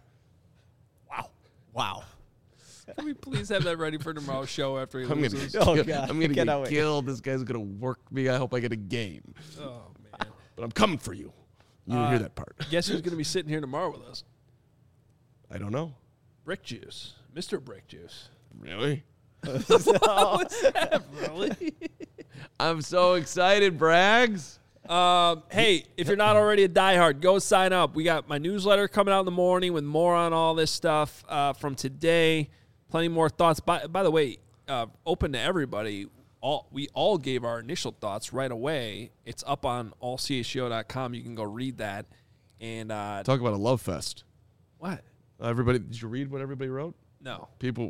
Wow. Can we please have that ready for tomorrow's show after he I'm loses? gonna Cannot get wait. killed. This guy's gonna work me. I hope I get a game. Oh, man. But I'm coming for you. You didn't hear that part. Guess who's going to be sitting here tomorrow with us? I don't know. Brick Juice. Mr. Brick Juice. Really? Really? I'm so excited, Braggs. Hey, if you're not already a diehard, go sign up. We got my newsletter coming out in the morning with more on all this stuff from today. Plenty more thoughts. By the way, open to everybody. We all gave our initial thoughts right away. It's up on allchgo.com. You can go read that. And Talk about a love fest. what? Everybody, did you read what everybody wrote? No. People,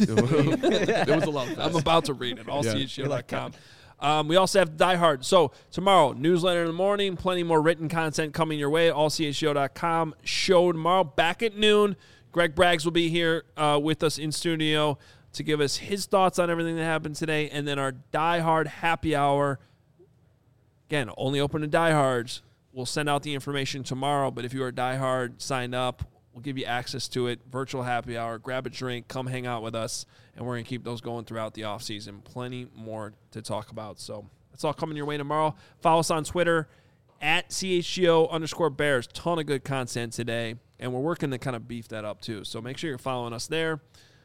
it was a love fest. I'm about to read it. allchgo.com. We also have Die Hard. So tomorrow, newsletter in the morning, plenty more written content coming your way. allchgo.com. Show tomorrow, back at noon. Greg Braggs will be here with us in studio to give us his thoughts on everything that happened today. And then our Die Hard happy hour. Again, only open to diehards. We'll send out the information tomorrow, but if you are Die Hard, sign up. We'll give you access to it. Virtual happy hour. Grab a drink. Come hang out with us. And we're going to keep those going throughout the offseason. Plenty more to talk about. So that's all coming your way tomorrow. Follow us on Twitter at CHGO_Bears. Ton of good content today. And we're working to kind of beef that up too. So make sure you're following us there.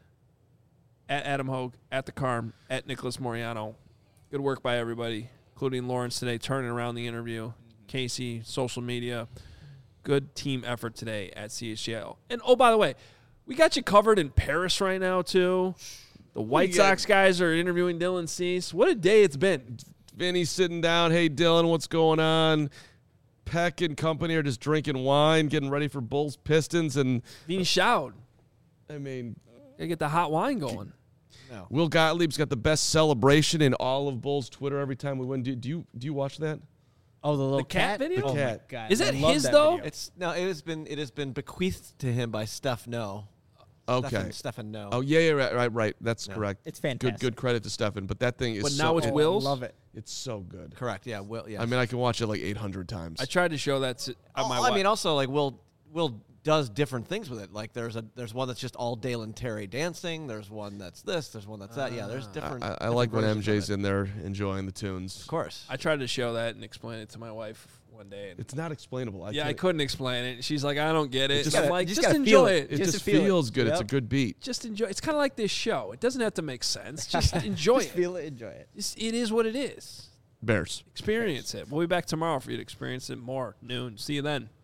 At Adam Hogue, at The Carm, at Nicholas Moriano. Good work by everybody, including Lawrence today, turning around the interview. Casey, social media. Good team effort today at CHGO. And, oh, by the way, we got you covered in Paris right now, too. The White Sox guys are interviewing Dylan Cease. What a day it's been. Vinny's sitting down. Hey, Dylan, what's going on? Peck and company are just drinking wine, getting ready for Bulls Pistons. And Vinny Shout. I mean, Gotta get the hot wine going. Will Gottlieb's got the best celebration in all of Bulls Twitter every time we win. Do you watch that? Oh, the little cat video? Oh, The my cat. God. Is that I love his, that though? video. It has been bequeathed to him by Steph No. Okay. Stefan No. Oh, yeah, right. That's Yeah. correct. It's fantastic. Good credit to Stefan. But that thing is But so now it's good. Will's? Love it. It's so good. Correct. Yeah. Will. Yeah. I mean, I can watch it like 800 times. I tried to show that to my I wife. mean, also like Will does different things with it. Like there's one that's just all Dale Terry dancing. There's one that's this. There's one that's that. Yeah. There's different. I like when versions of MJ's it. in there enjoying the tunes. Of course. I tried to show that and explain it to my wife one day. And It's not explainable. I can't- couldn't explain it. She's like, I don't get it. just And I'm gotta- like, you just just gotta enjoy feel it. It Just just to feel it. feels good. It's a Yep. good beat. Just enjoy. It's kind of like this show. It doesn't have to make sense. Just enjoy Just it. feel it, enjoy it. It is what it is. Bears. Experience it. We'll be back tomorrow for you to experience it more. Noon. See you then.